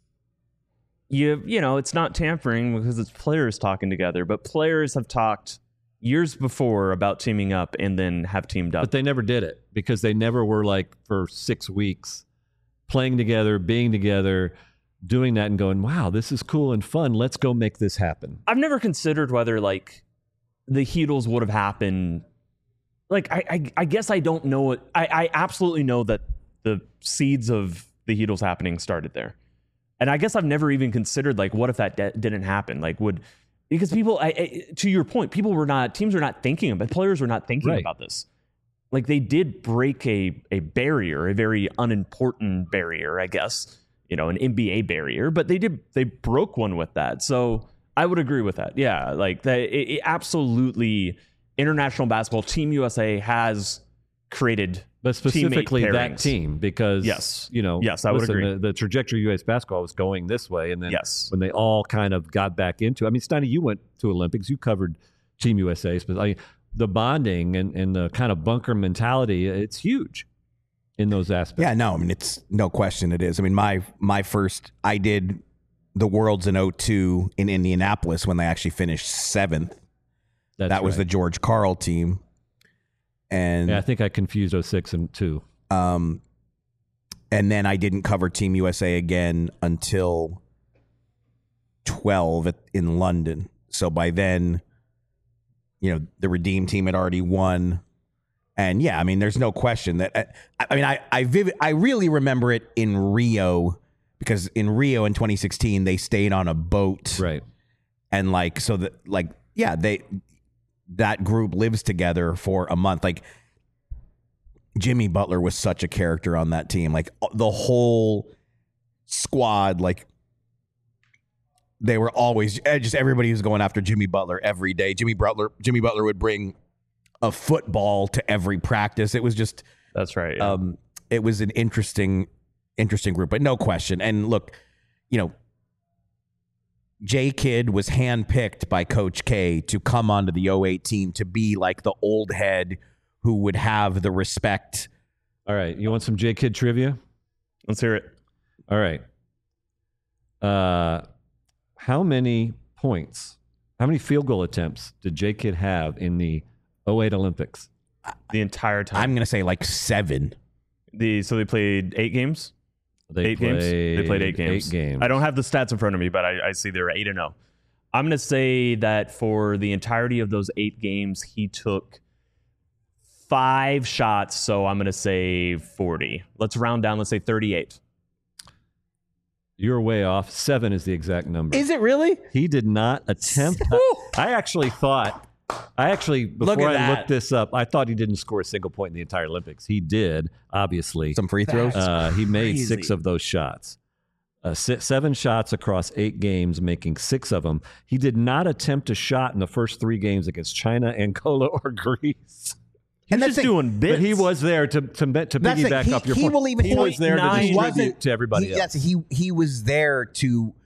you you know it's not tampering because it's players talking together, but players have talked years before about teaming up and then have teamed up. but they never did it because they never were like for six weeks playing together, being together, doing that and going, wow, this is cool and fun. Let's go make this happen. I've never considered whether like the Heatles would have happened. Like I, I, I guess I don't know it. I, I absolutely know that the seeds of the Heatles happening started there, and I guess I've never even considered like what if that de- didn't happen? Like would because people, I, I, to your point, people were not teams were not thinking about players were not thinking Right. about this. Like they did break a a barrier, a very unimportant barrier, I guess. You know, an N B A barrier, but they did they broke one with that. So I would agree with that. Yeah, like that. It, it absolutely, international basketball, Team U S A has created, But specifically teammate that pairings. team, because Yes. you know, Yes, I would listen, agree. The, the trajectory of U S basketball was going this way, and then Yes. when they all kind of got back into, I mean, Steiny, you went to Olympics, you covered Team U S A, but I mean, the bonding and, and the kind of bunker mentality, it's huge in those aspects. Yeah, no, I mean, it's no question it is. I mean, my my first, I did the Worlds in oh two in Indianapolis when they actually finished seventh. That's that was the right. George Karl team. And Yeah, I think I confused oh six and two. um, and then I didn't cover Team U S A again until twelve at, in London. So by then, you know, the Redeem team had already won. And yeah, I mean, there's no question that I, I mean, I I, vivid, I really remember it in Rio because in Rio in twenty sixteen they stayed on a boat, Right. and like so that like yeah they that group lives together for a month. Like Jimmy Butler was such a character on that team. Like the whole squad, like they were always just everybody was going after Jimmy Butler every day. Jimmy Butler, Jimmy Butler would bring a football to every practice. It was just, That's right. Yeah. um, it was an interesting, interesting group, but no question. And look, you know, J Kidd was handpicked by Coach K to come onto the oh eight team to be like the old head who would have the respect. All right. You want some J Kidd trivia? Let's hear it. All right. Uh, how many points, how many field goal attempts did J-Kid have in the oh eight Olympics? The entire time. I'm going to say like seven. The so they played eight games. They eight games. They played eight games. Eight games. I don't have the stats in front of me, but I, I see they're eight and zero. I'm going to say that for the entirety of those eight games, he took five shots. So I'm going to say forty. Let's round down. Let's say thirty-eight. You're way off. Seven is the exact number. Is it really? He did not attempt. I actually thought, I actually, Look before at I that. looked this up, I thought he didn't score a single point in the entire Olympics. He did, obviously. Some free throws? Uh, he made crazy. six of those shots. Uh, six, seven shots across eight games, making six of them. He did not attempt a shot in the first three games against China, Angola, or Greece. He's And just that's it. doing bits. But he was there to to, to That's it. piggyback He- up your he point. will even he was there to point nine. He distribute wasn't- to everybody he, else. yes, he he was there to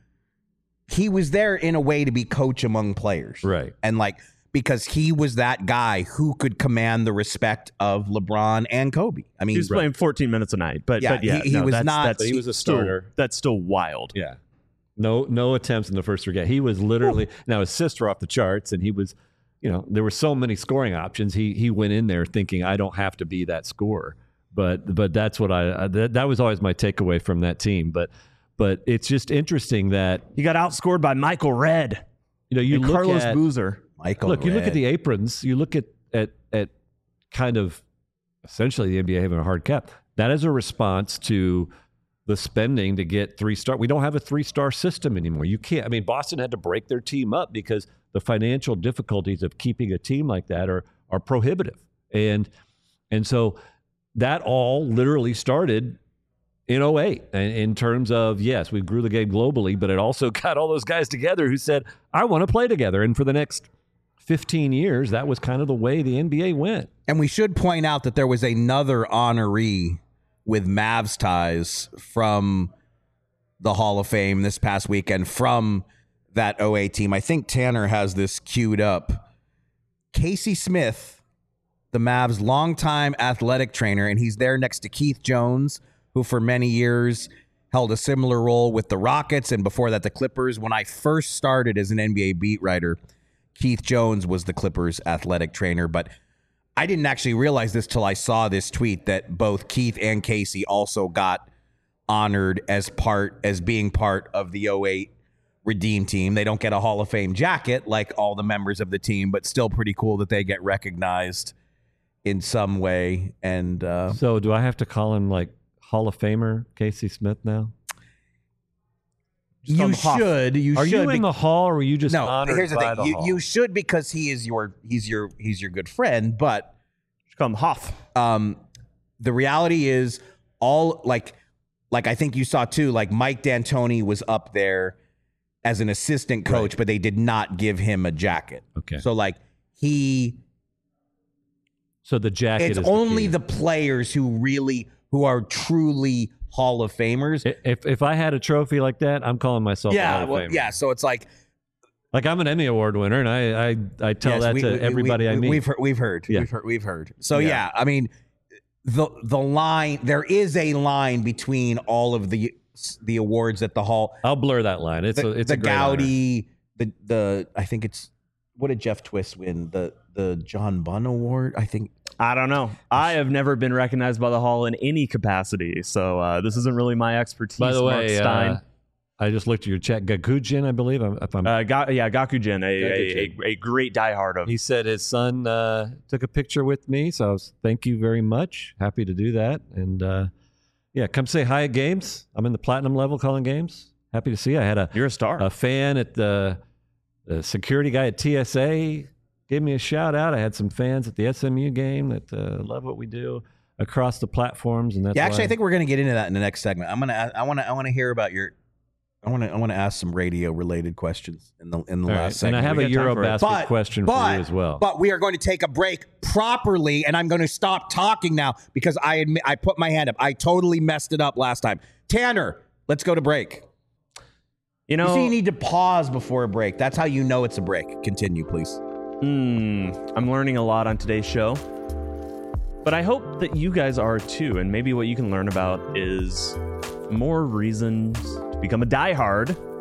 he was there in a way to be coach among players. Right. And like because he was that guy who could command the respect of LeBron and Kobe. I mean, He was playing fourteen minutes a night, but Yeah, but yeah, he- he no, was that's, not- That's, But he was a still- starter. That's still wild. Yeah. No no attempts in the first three games. He was literally now his assists were off the charts, and he was, you know, there were so many scoring options. He he went in there thinking I don't have to be that scorer. But but that's what I that, that was always my takeaway from that team. But but it's just interesting that He got outscored by Michael Redd you know you and look Carlos at Boozer. Michael look you look at Redd. the aprons. You look at at at kind of essentially the N B A having a hard cap. That is a response to the spending to get three star. We don't have a three star system anymore. You can't. I mean, Boston had to break their team up because the financial difficulties of keeping a team like that are are prohibitive. And and so that all literally started in oh eight in, in terms of, yes, we grew the game globally, but it also got all those guys together who said, I want to play together. And for the next fifteen years, that was kind of the way the N B A went. And we should point out that there was another honoree with Mavs ties from the Hall of Fame this past weekend from that oh eight team. I think Tanner has this queued up. Casey Smith, the Mavs' longtime athletic trainer, and he's there next to Keith Jones, who for many years held a similar role with the Rockets and before that the Clippers. When I first started as an N B A beat writer, Keith Jones was the Clippers' athletic trainer, but I didn't actually realize this till I saw this tweet that both Keith and Casey also got honored as part as being part of the oh eight Redeem team. They don't get a Hall of Fame jacket like all the members of the team, but still pretty cool that they get recognized in some way. And uh, So do I have to call him like Hall of Famer Casey Smith now? you him Hoff. should, you Are should. you in be- the hall, or were you just no, honored here's the by thing. the You, hall? you should because he is your he's your he's your good friend, but Come Hoff. um, the reality is all like like I think you saw too, like Mike D'Antoni was up there as an assistant coach, but they did not give him a jacket. Okay. So like he So the jacket it's is only the, the players who really who are truly Hall of Famers. key. If if I had a trophy like that, I'm calling myself a yeah, Hall of well, Famer. yeah. So it's like Like I'm an Emmy Award winner, and I I, I tell yes, that we- to we- everybody we, I meet. We've heard, we've heard, Yeah. we've heard, we've heard. So Yeah. yeah, I mean, the the line there is a line between all of the the awards at the Hall. I'll blur that line. It's the, a it's the a great honor. Gowdy, the the I think it's what did Jeff Twist win? The the John Bunn Award, I think. I don't know. I have never been recognized by the Hall in any capacity, so uh, this isn't really my expertise. By the Mark way, Stein. uh, I just looked at your chat. Gakujin, I believe. I'm- If I'm, Uh, Ga- yeah, Gakujin, a, Gakujin. a, a, a great diehard of. he said his son uh, took a picture with me, so I was, thank you very much. Happy to do that, and uh, yeah, come say hi at games. I'm in the platinum level calling games. Happy to see you. I had a You're a star. a fan at the, the security guy at T S A gave me a shout out. I had some fans at the S M U game that uh, love what we do across the platforms, and that's Yeah, actually, why- I think we're going to get into that in the next segment. I'm gonna I want to I want to hear about your. I want to I want to ask some radio related questions in the in the All last right. segment. And I have We a got time for it. Eurobasket But- question but, for you as well. But we are going to take a break properly, and I'm going to stop talking now because I admit I put my hand up. I totally messed it up last time. Tanner, let's go to break. you You know, see, you need to pause before a break. That's how you know it's a break. Continue, please. Hmm, I'm learning a lot on today's show. But I hope that you guys are too. And maybe what you can learn about is more reasons to become a diehard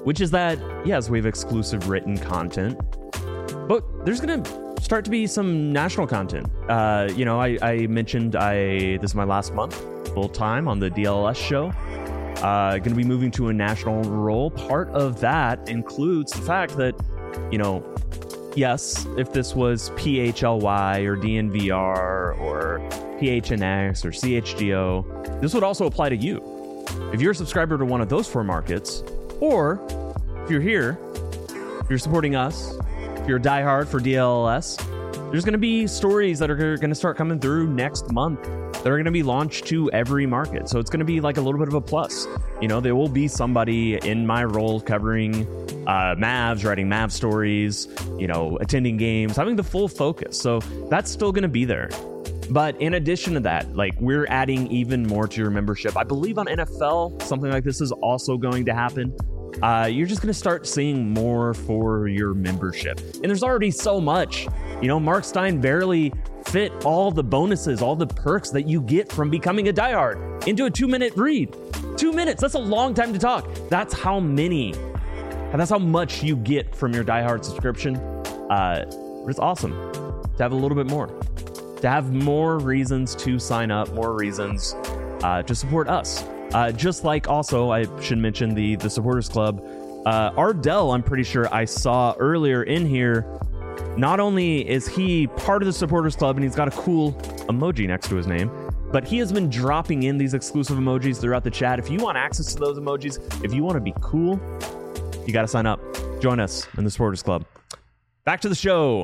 which is that, yes, we have exclusive written content, but there's going to start to be some national content. Uh, you know, I, I mentioned I this is my last month full time on the D L S show. Uh, going to be moving to a national role. Part of that includes the fact that, you know, yes, if this was P H L Y or D N V R or P H N X or C H G O, this would also apply to you. If you're a subscriber to one of those four markets, or if you're here, if you're supporting us, if you're a diehard for D L S, there's going to be stories that are going to start coming through next month that are going to be launched to every market. So it's going to be like a little bit of a plus. You know, there will be somebody in my role covering uh, Mavs, writing Mav stories, you know, attending games, having the full focus. So that's still going to be there. But in addition to that, like, we're adding even more to your membership. I believe on N F L, something like this is also going to happen. Uh, you're just going to start seeing more for your membership. And there's already so much. You know, Mark Stein barely fit all the bonuses, all the perks that you get from becoming a diehard into a two-minute read. Two minutes, that's a long time to talk. That's how many, that's how much you get from your diehard subscription. Uh, it's awesome to have a little bit more. To have more reasons to sign up, more reasons uh, to support us. Uh, just like also, I should mention the, the Supporters Club. Uh, Ardell, I'm pretty sure I saw earlier in here, not only is he part of the Supporters Club and he's got a cool emoji next to his name, but he has been dropping in these exclusive emojis throughout the chat. If you want access to those emojis, if you want to be cool, you got to sign up. Join us in the Supporters Club. Back to the show.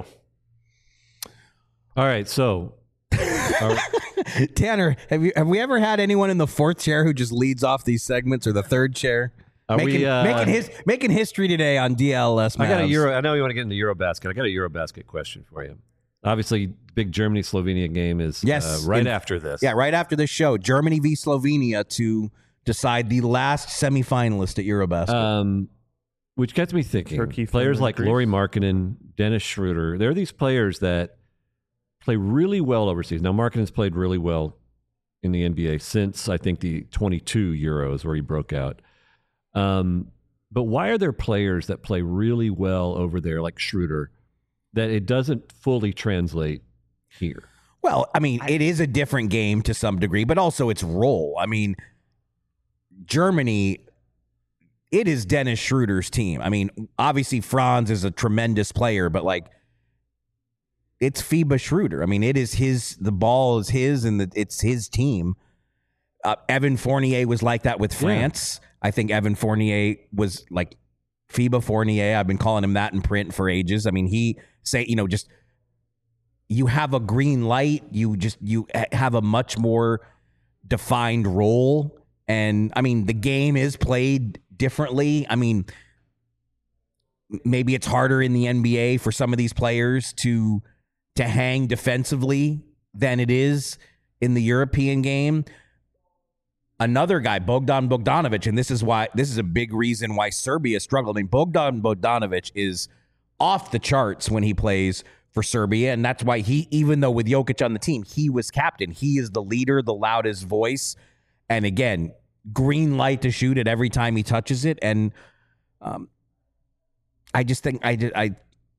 All right, so uh, Tanner, have you have we ever had anyone in the fourth chair who just leads off these segments, or the third chair? Are making, we, uh, making his making history today on D L S Mavs. I got a Euro. I know you want to get into Eurobasket. I got a Eurobasket question for you. Obviously, big Germany Slovenia game is yes, uh, right in, after this. Yeah, right after this show, Germany v Slovenia to decide the last semifinalist at Eurobasket. Um, which gets me thinking. Turkey, players Finland, like Greece. Lauri Markkanen, Dennis Schroeder. There are these players that play really well overseas. Now, Markkanen's played really well in the N B A since, I think, the twenty-two Euros where he broke out. Um, but why are there players that play really well over there, like Schroeder, that it doesn't fully translate here? Well, I mean, it is a different game to some degree, but also its role. I mean, Germany, it is Dennis Schroeder's team. I mean, obviously Franz is a tremendous player, but like, it's FIBA Schroeder. I mean, it is his, the ball is his, and the, it's his team. Uh, Evan Fournier was like that with France. Yeah. I think Evan Fournier was like FIBA Fournier. I've been calling him that in print for ages. I mean, he say, you know, just, you have a green light. You just, you have a much more defined role. And I mean, the game is played differently. I mean, maybe it's harder in the N B A for some of these players to, to hang defensively than it is in the European game. Another guy, Bogdan Bogdanovic, and this is why this is a big reason why Serbia struggled. I mean, Bogdan Bogdanovic is off the charts when he plays for Serbia, and that's why he, even though with Jokic on the team, he was captain. He is the leader, the loudest voice, and again, green light to shoot it every time he touches it. And um, I just think I did I.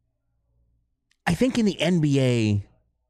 I think in the N B A,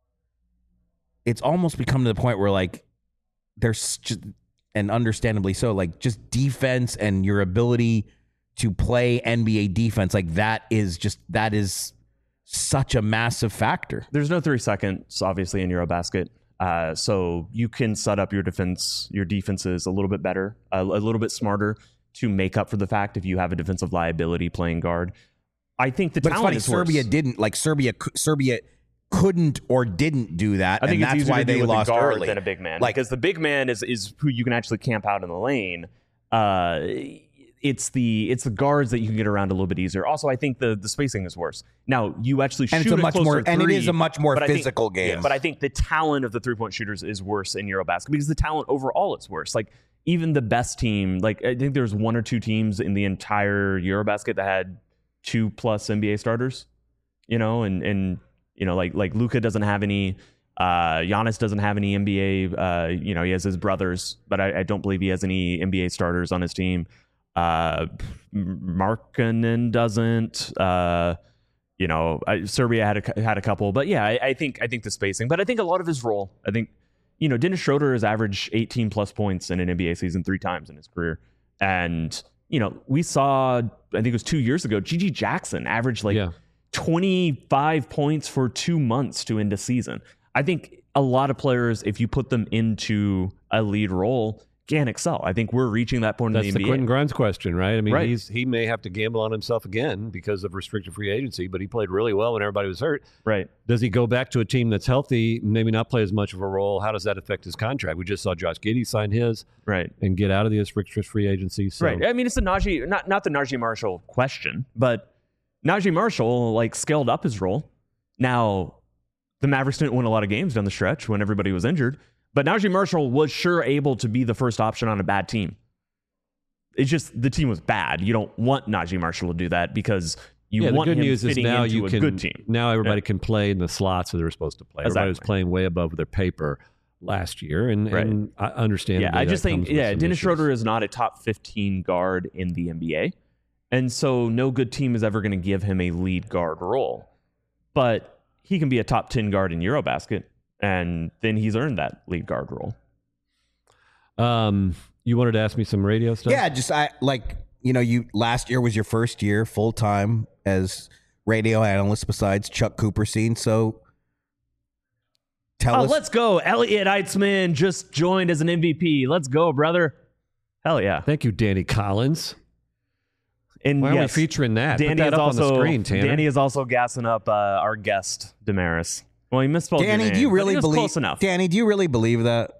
it's almost become to the point where, like, there's just, and understandably so, like, just defense and your ability to play N B A defense, like, that is just, that is such a massive factor. There's no three seconds, obviously, in Eurobasket. Uh, so you can set up your defense, your defenses a little bit better, a, a little bit smarter to make up for the fact if you have a defensive liability playing guard. I think the but talent it's is funny, worse. Serbia didn't, like, Serbia, Serbia couldn't or didn't do that, I think and it's that's easier why to do they with lost a guard early. than a big man, Like, because the big man is is who you can actually camp out in the lane. Uh, it's the it's the guards that you can get around a little bit easier. Also, I think the the spacing is worse. Now you actually shoot and it's a a much closer more, three, and it is a much more but I think- physical game. yeah, but I think the talent of the three point shooters is worse in Eurobasket because the talent overall is worse. Like, even the best team, like, I think there's one or two teams in the entire Eurobasket that had two plus N B A starters. You know, and and you know, like like Luka doesn't have any. Uh, Giannis doesn't have any N B A. Uh, you know, he has his brothers, but I, I don't believe he has any N B A starters on his team. Uh, Markkanen doesn't. Uh, you know, I, Serbia had a, had a couple, but yeah, I, I think I think the spacing. But I think a lot of his role. I think you know, Dennis Schroeder has averaged eighteen plus points in an N B A season three times in his career, and you know, we saw, I think it was two years ago, G G Jackson averaged like Yeah. twenty-five points for two months to end a season. I think a lot of players, if you put them into a lead role, can excel. I think we're reaching that point That's in the the N B A. Quentin Grimes question, right? I mean, Right. he's he may have to gamble on himself again because of restricted free agency, but he played really well when everybody was hurt. Right. Does he go back to a team that's healthy, maybe not play as much of a role? How does that affect his contract? We just saw Josh Giddey sign his Right. and get out of the restricted free agency. So. Right. I mean, it's a Najee, not not the Najee Marshall question, but Najee Marshall like scaled up his role. Now, the Mavericks didn't win a lot of games down the stretch when everybody was injured, but Najee Marshall was sure able to be the first option on a bad team. It's just the team was bad. You don't want Najee Marshall to do that because you yeah, the want good him news is fitting now into you a can good team. now everybody Yeah. can play in the slots that they're supposed to play. Everybody was Exactly. playing way above their paper last year, and, Right. and I understand. Yeah, I just think yeah, Dennis Schroeder is not a top fifteen guard in the N B A, and so no good team is ever going to give him a lead guard role. But he can be a top ten guard in Eurobasket, and then he's earned that lead guard role. Um, you wanted to ask me some radio stuff? Yeah, just I like you know you last year was your first year full time as radio analyst besides Chuck Cooperstein. So tell Oh, us. let's go! Elliot Eitzman just joined as an M V P. Let's go, brother! Hell yeah! Thank you, Danny Collins. And Why are yes, we featuring that? Danny Put that is up also on the screen, Tanner. Danny is also gassing up uh, our guest Damaris. Well, he misspelled your Danny, name, do you but really he was believe? close enough? Danny, do you really believe that?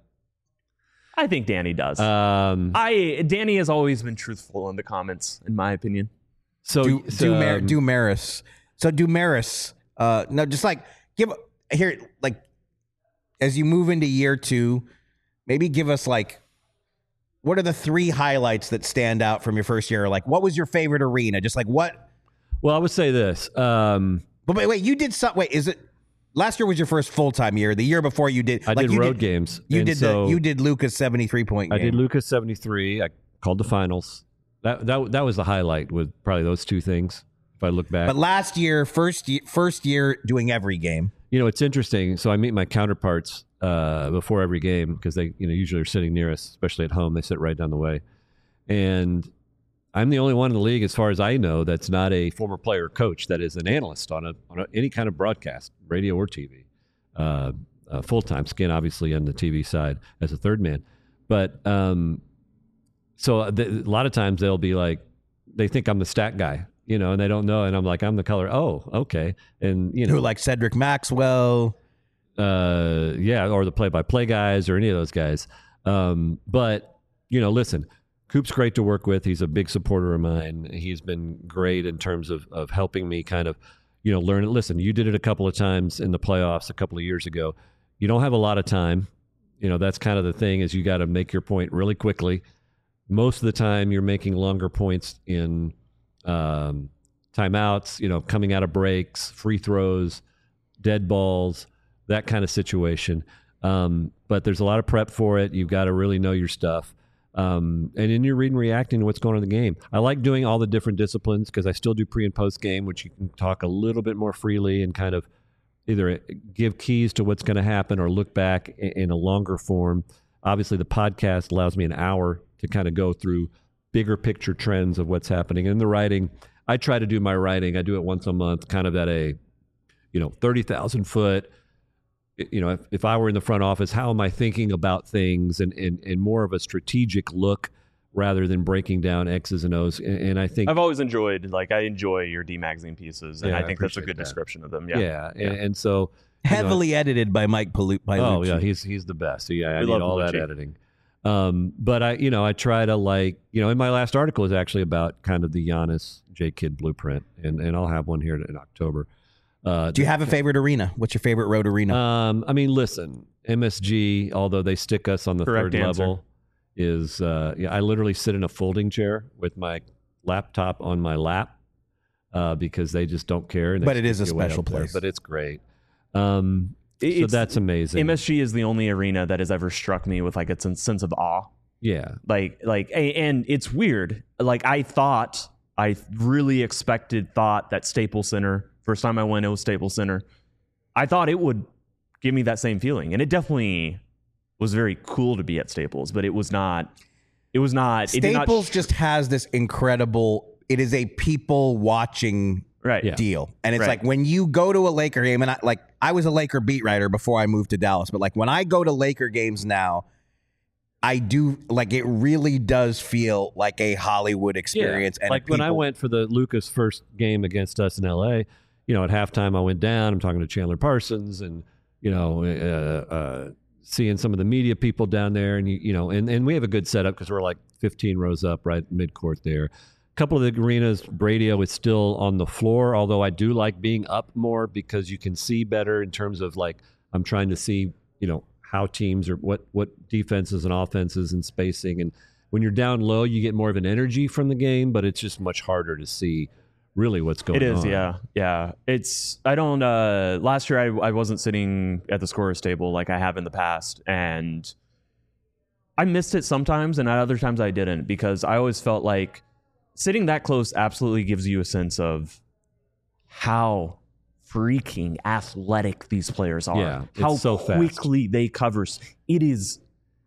I think Danny does. um, I Danny has always been truthful in the comments, in my opinion. so Do so, Dumar- um, Dumaris. So Dumaris. Uh, no, just like give here, like as you move into year two, maybe give us like what are the three highlights that stand out from your first year? Like, what was your favorite arena? Just like what? well, I would say this. Um, But wait, wait, you did some. Wait, is it last year was your first full time year? The year before you did. I like did you road games. You and did so the. You did Luca's seventy three point I game. did Lucas seventy-three. I called the finals. That that that was the highlight with probably those two things. If I look back, But last year, first year, first year doing every game. you know, it's interesting. So I meet my counterparts uh, before every game because they, you know, usually are sitting near us, especially at home. They sit right down the way, and I'm the only one in the league, as far as I know, that's not a former player or coach that is an analyst on a on a, any kind of broadcast, radio or T V, uh, uh, full time. Skin obviously on the T V side as a third man, but um, so th- a lot of times they'll be like, they think I'm the stat guy. You know, and they don't know, and I'm like, I'm the color. Oh, okay, and you know, Who like Cedric Maxwell? uh, yeah, or the play-by-play guys, or any of those guys. Um, but you know, listen, Coop's great to work with. He's a big supporter of mine. He's been great in terms of of helping me kind of, you know, learn it. Listen, you did it a couple of times in the playoffs a couple of years ago. You don't have a lot of time. You know, that's kind of the thing is you got to make your point really quickly. Most of the time, you're making longer points in um, timeouts, you know, coming out of breaks, free throws, dead balls, that kind of situation. Um, but there's a lot of prep for it. You've got to really know your stuff. Um, and then you're reading, reacting to what's going on in the game. I like doing all the different disciplines because I still do pre and post game, which you can talk a little bit more freely and kind of either give keys to what's going to happen or look back in, in a longer form. Obviously, the podcast allows me an hour to kind of go through bigger picture trends of what's happening. And the writing, I try to do my writing. I do it once a month, kind of at a, you know, thirty thousand foot, you know, if, if I were in the front office, how am I thinking about things and, and, and more of a strategic look rather than breaking down X's and O's. And, and I think I've always enjoyed, like, I enjoy your D magazine pieces, and Yeah, I I think that's a appreciate good that. description of them. yeah, Yeah. And, and so you know, Heavily edited by Mike Palu- by oh Lucci. yeah, he's he's the best. So, yeah, I We need love all that Lucci. editing. Um, but I, you know, I try to like, you know, in my last article is actually about kind of the Giannis J Kidd blueprint, and and I'll have one here in October. Uh, Do you have a favorite arena? What's your favorite road arena? Um, I mean, listen, M S G, although they stick us on the Correct third answer. level, is uh, yeah, I literally sit in a folding chair with my laptop on my lap uh, because they just don't care. And they But it is stick a you way special up there. place. But it's great. Um, so It's- that's amazing. M S G is the only arena that has ever struck me with like a sen- sense of awe. Yeah. Like, like, a- and it's weird. Like, I thought, I really expected, thought that Staples Center, first time I went, it was Staples Center. I thought it would give me that same feeling. And it definitely was very cool to be at Staples, but it was not, it was not. It did not Staples sh- just has this incredible, it is a people watching right. Yeah. deal. And it's Right. like when you go to a Laker game, and I, like I was a Laker beat writer before I moved to Dallas, but like when I go to Laker games now, I do like it really does feel like a Hollywood experience. Yeah. And Like when I people- went for the Lucas first game against us in L A, you know, at halftime I went down. I'm talking to Chandler Parsons and, you know, uh, uh, seeing some of the media people down there. And, you, you know, and, and we have a good setup because we're like fifteen rows up right midcourt there. A couple of the arenas, radio is still on the floor, although I do like being up more because you can see better in terms of like I'm trying to see, you know, how teams are, what what defenses and offenses and spacing. And when you're down low, you get more of an energy from the game, but it's just much harder to see really what's going on. It is, on. yeah, yeah. It's I don't. Uh, last year, I, I wasn't sitting at the scorer's table like I have in the past, and I missed it sometimes, and at other times I didn't because I always felt like sitting that close absolutely gives you a sense of how freaking athletic these players are. Yeah, it's how so fast. quickly they cover. It is.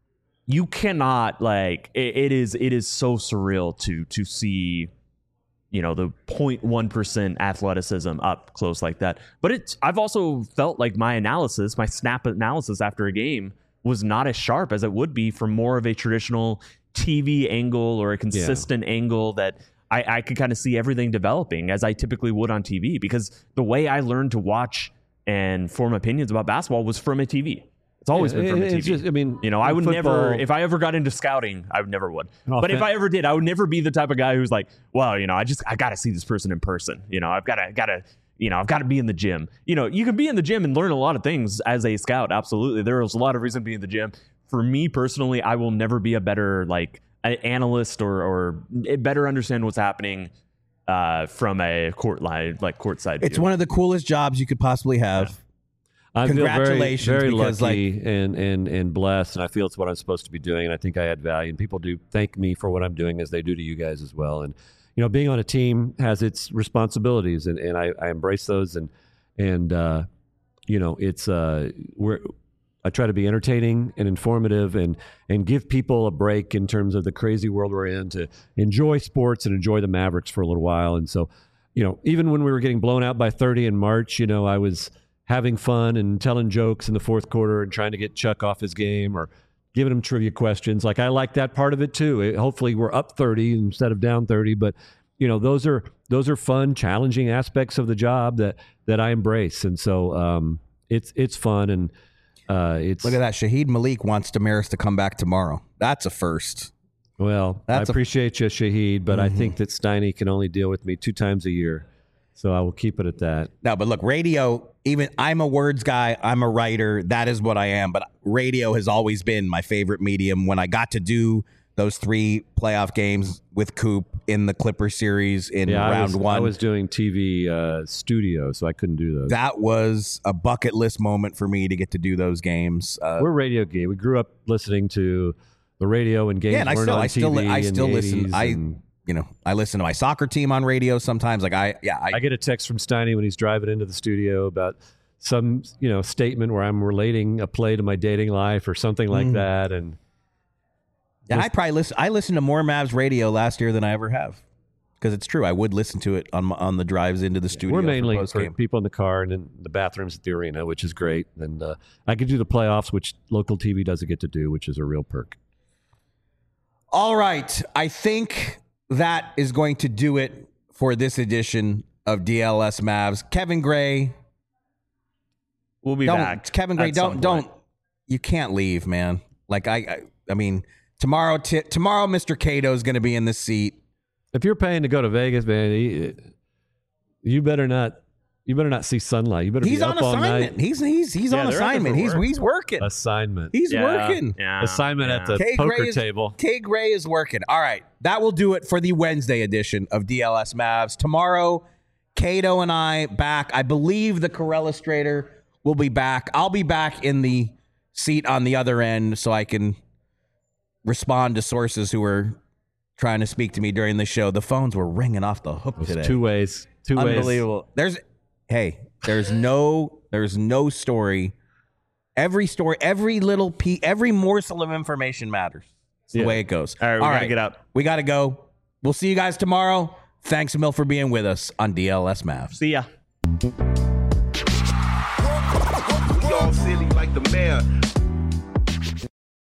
You cannot like. It, it is. It is so surreal to to see. You know, the zero point one percent athleticism up close like that. But it's, I've also felt like my analysis, my snap analysis after a game was not as sharp as it would be from more of a traditional T V angle or a consistent yeah. angle that I, I could kind of see everything developing as I typically would on T V because the way I learned to watch and form opinions about basketball was from a T V. It's always Yeah, been from a it's T V. just- I mean, you know, I would football- never, if I ever got into scouting, I would never would. Oh, But if fan- I ever did, I would never be the type of guy who's like, well, you know, I just, I got to see this person in person. You know, I've got to, got to, you know, I've got to be in the gym. You know, you can be in the gym and learn a lot of things as a scout. Absolutely. There is a lot of reason to be in the gym. For me personally, I will never be a better, like, an analyst or, or better understand what's happening uh, from a court line, like courtside it's view. one of the coolest jobs you could possibly have. I feel very, Congratulations, very because, lucky and, and, and blessed, and I feel it's what I'm supposed to be doing, and I think I add value, and people do thank me for what I'm doing as they do to you guys as well. And, you know, being on a team has its responsibilities, and, and I, I embrace those, and, and uh, you know, it's, uh, we're, I try to be entertaining and informative and, and give people a break in terms of the crazy world we're in to enjoy sports and enjoy the Mavericks for a little while. And so, you know, even when we were getting blown out by thirty in March, you know, I was having fun and telling jokes in the fourth quarter and trying to get Chuck off his game or giving him trivia questions. Like I like that part of it too. It, hopefully we're up thirty instead of down thirty, but you know, those are, those are fun, challenging aspects of the job that, that I embrace. And so um, it's, it's fun. And uh, it's, Look at that. Shaheed Malik wants Damaris to come back tomorrow. That's a first. well, That's a- I appreciate you, Shaheed, but Mm-hmm. I think that Steiny can only deal with me two times a year. So I will keep it at that. No, but look, radio, even I'm a words guy, I'm a writer. That is what I am. But radio has always been my favorite medium. When I got to do those three playoff games with Coop in the Clipper series in Yeah, I round was, one, I was doing T V uh, studio, so I couldn't do those. that was a bucket list moment for me to get to do those games. Uh, We're radio gay. We grew up listening to the radio and games yeah, and I weren't still, on I still, T V I in still the listen. eighties, I, and you know, I listen to my soccer team on radio sometimes. Like I, yeah, I, I get a text from Steiny when he's driving into the studio about some, you know, statement where I'm relating a play to my dating life or something like Mm. that. And and I probably listen. I listened to more Mavs radio last year than I ever have because it's true. I would listen to it on my, on the drives into the studio. we're mainly for, for post-game. people in the car and in the bathrooms at the arena, which is great. And uh, I could do the playoffs, which local T V doesn't get to do, which is a real perk. All right. I think that is going to do it for this edition of D L S Mavs. Kevin Gray. We'll be don't, back. Kevin Gray, at some don't, point. don't, you can't leave, man. Like, I, I, I mean, tomorrow, t- tomorrow, Mister Cato is going to be in the seat. If you're paying to go to Vegas, man, you, you better not. You better not see sunlight. You better He's be on up all assignment. night. He's, he's, he's Yeah, on they're out there assignment. for He's, work. he's working. Assignment. He's Yeah, working. yeah, Assignment at yeah. the K poker Gray is, table. K Gray is working. All right. That will do it for the Wednesday edition of D L S Mavs. Tomorrow, Cato and I back. I believe the Corellustrator will be back. I'll be back in the seat on the other end so I can respond to sources who were trying to speak to me during the show. The phones were ringing off the hook today. Two ways. Two ways. Unbelievable. There's, hey, there's no, there's no story. Every story, every little piece, every morsel of information matters. It's the Yeah. way it goes. All right, we gotta get out. We gotta go. We'll see you guys tomorrow. Thanks, Emil, for being with us on D L S Mavs. See ya. We all silly like the mayor.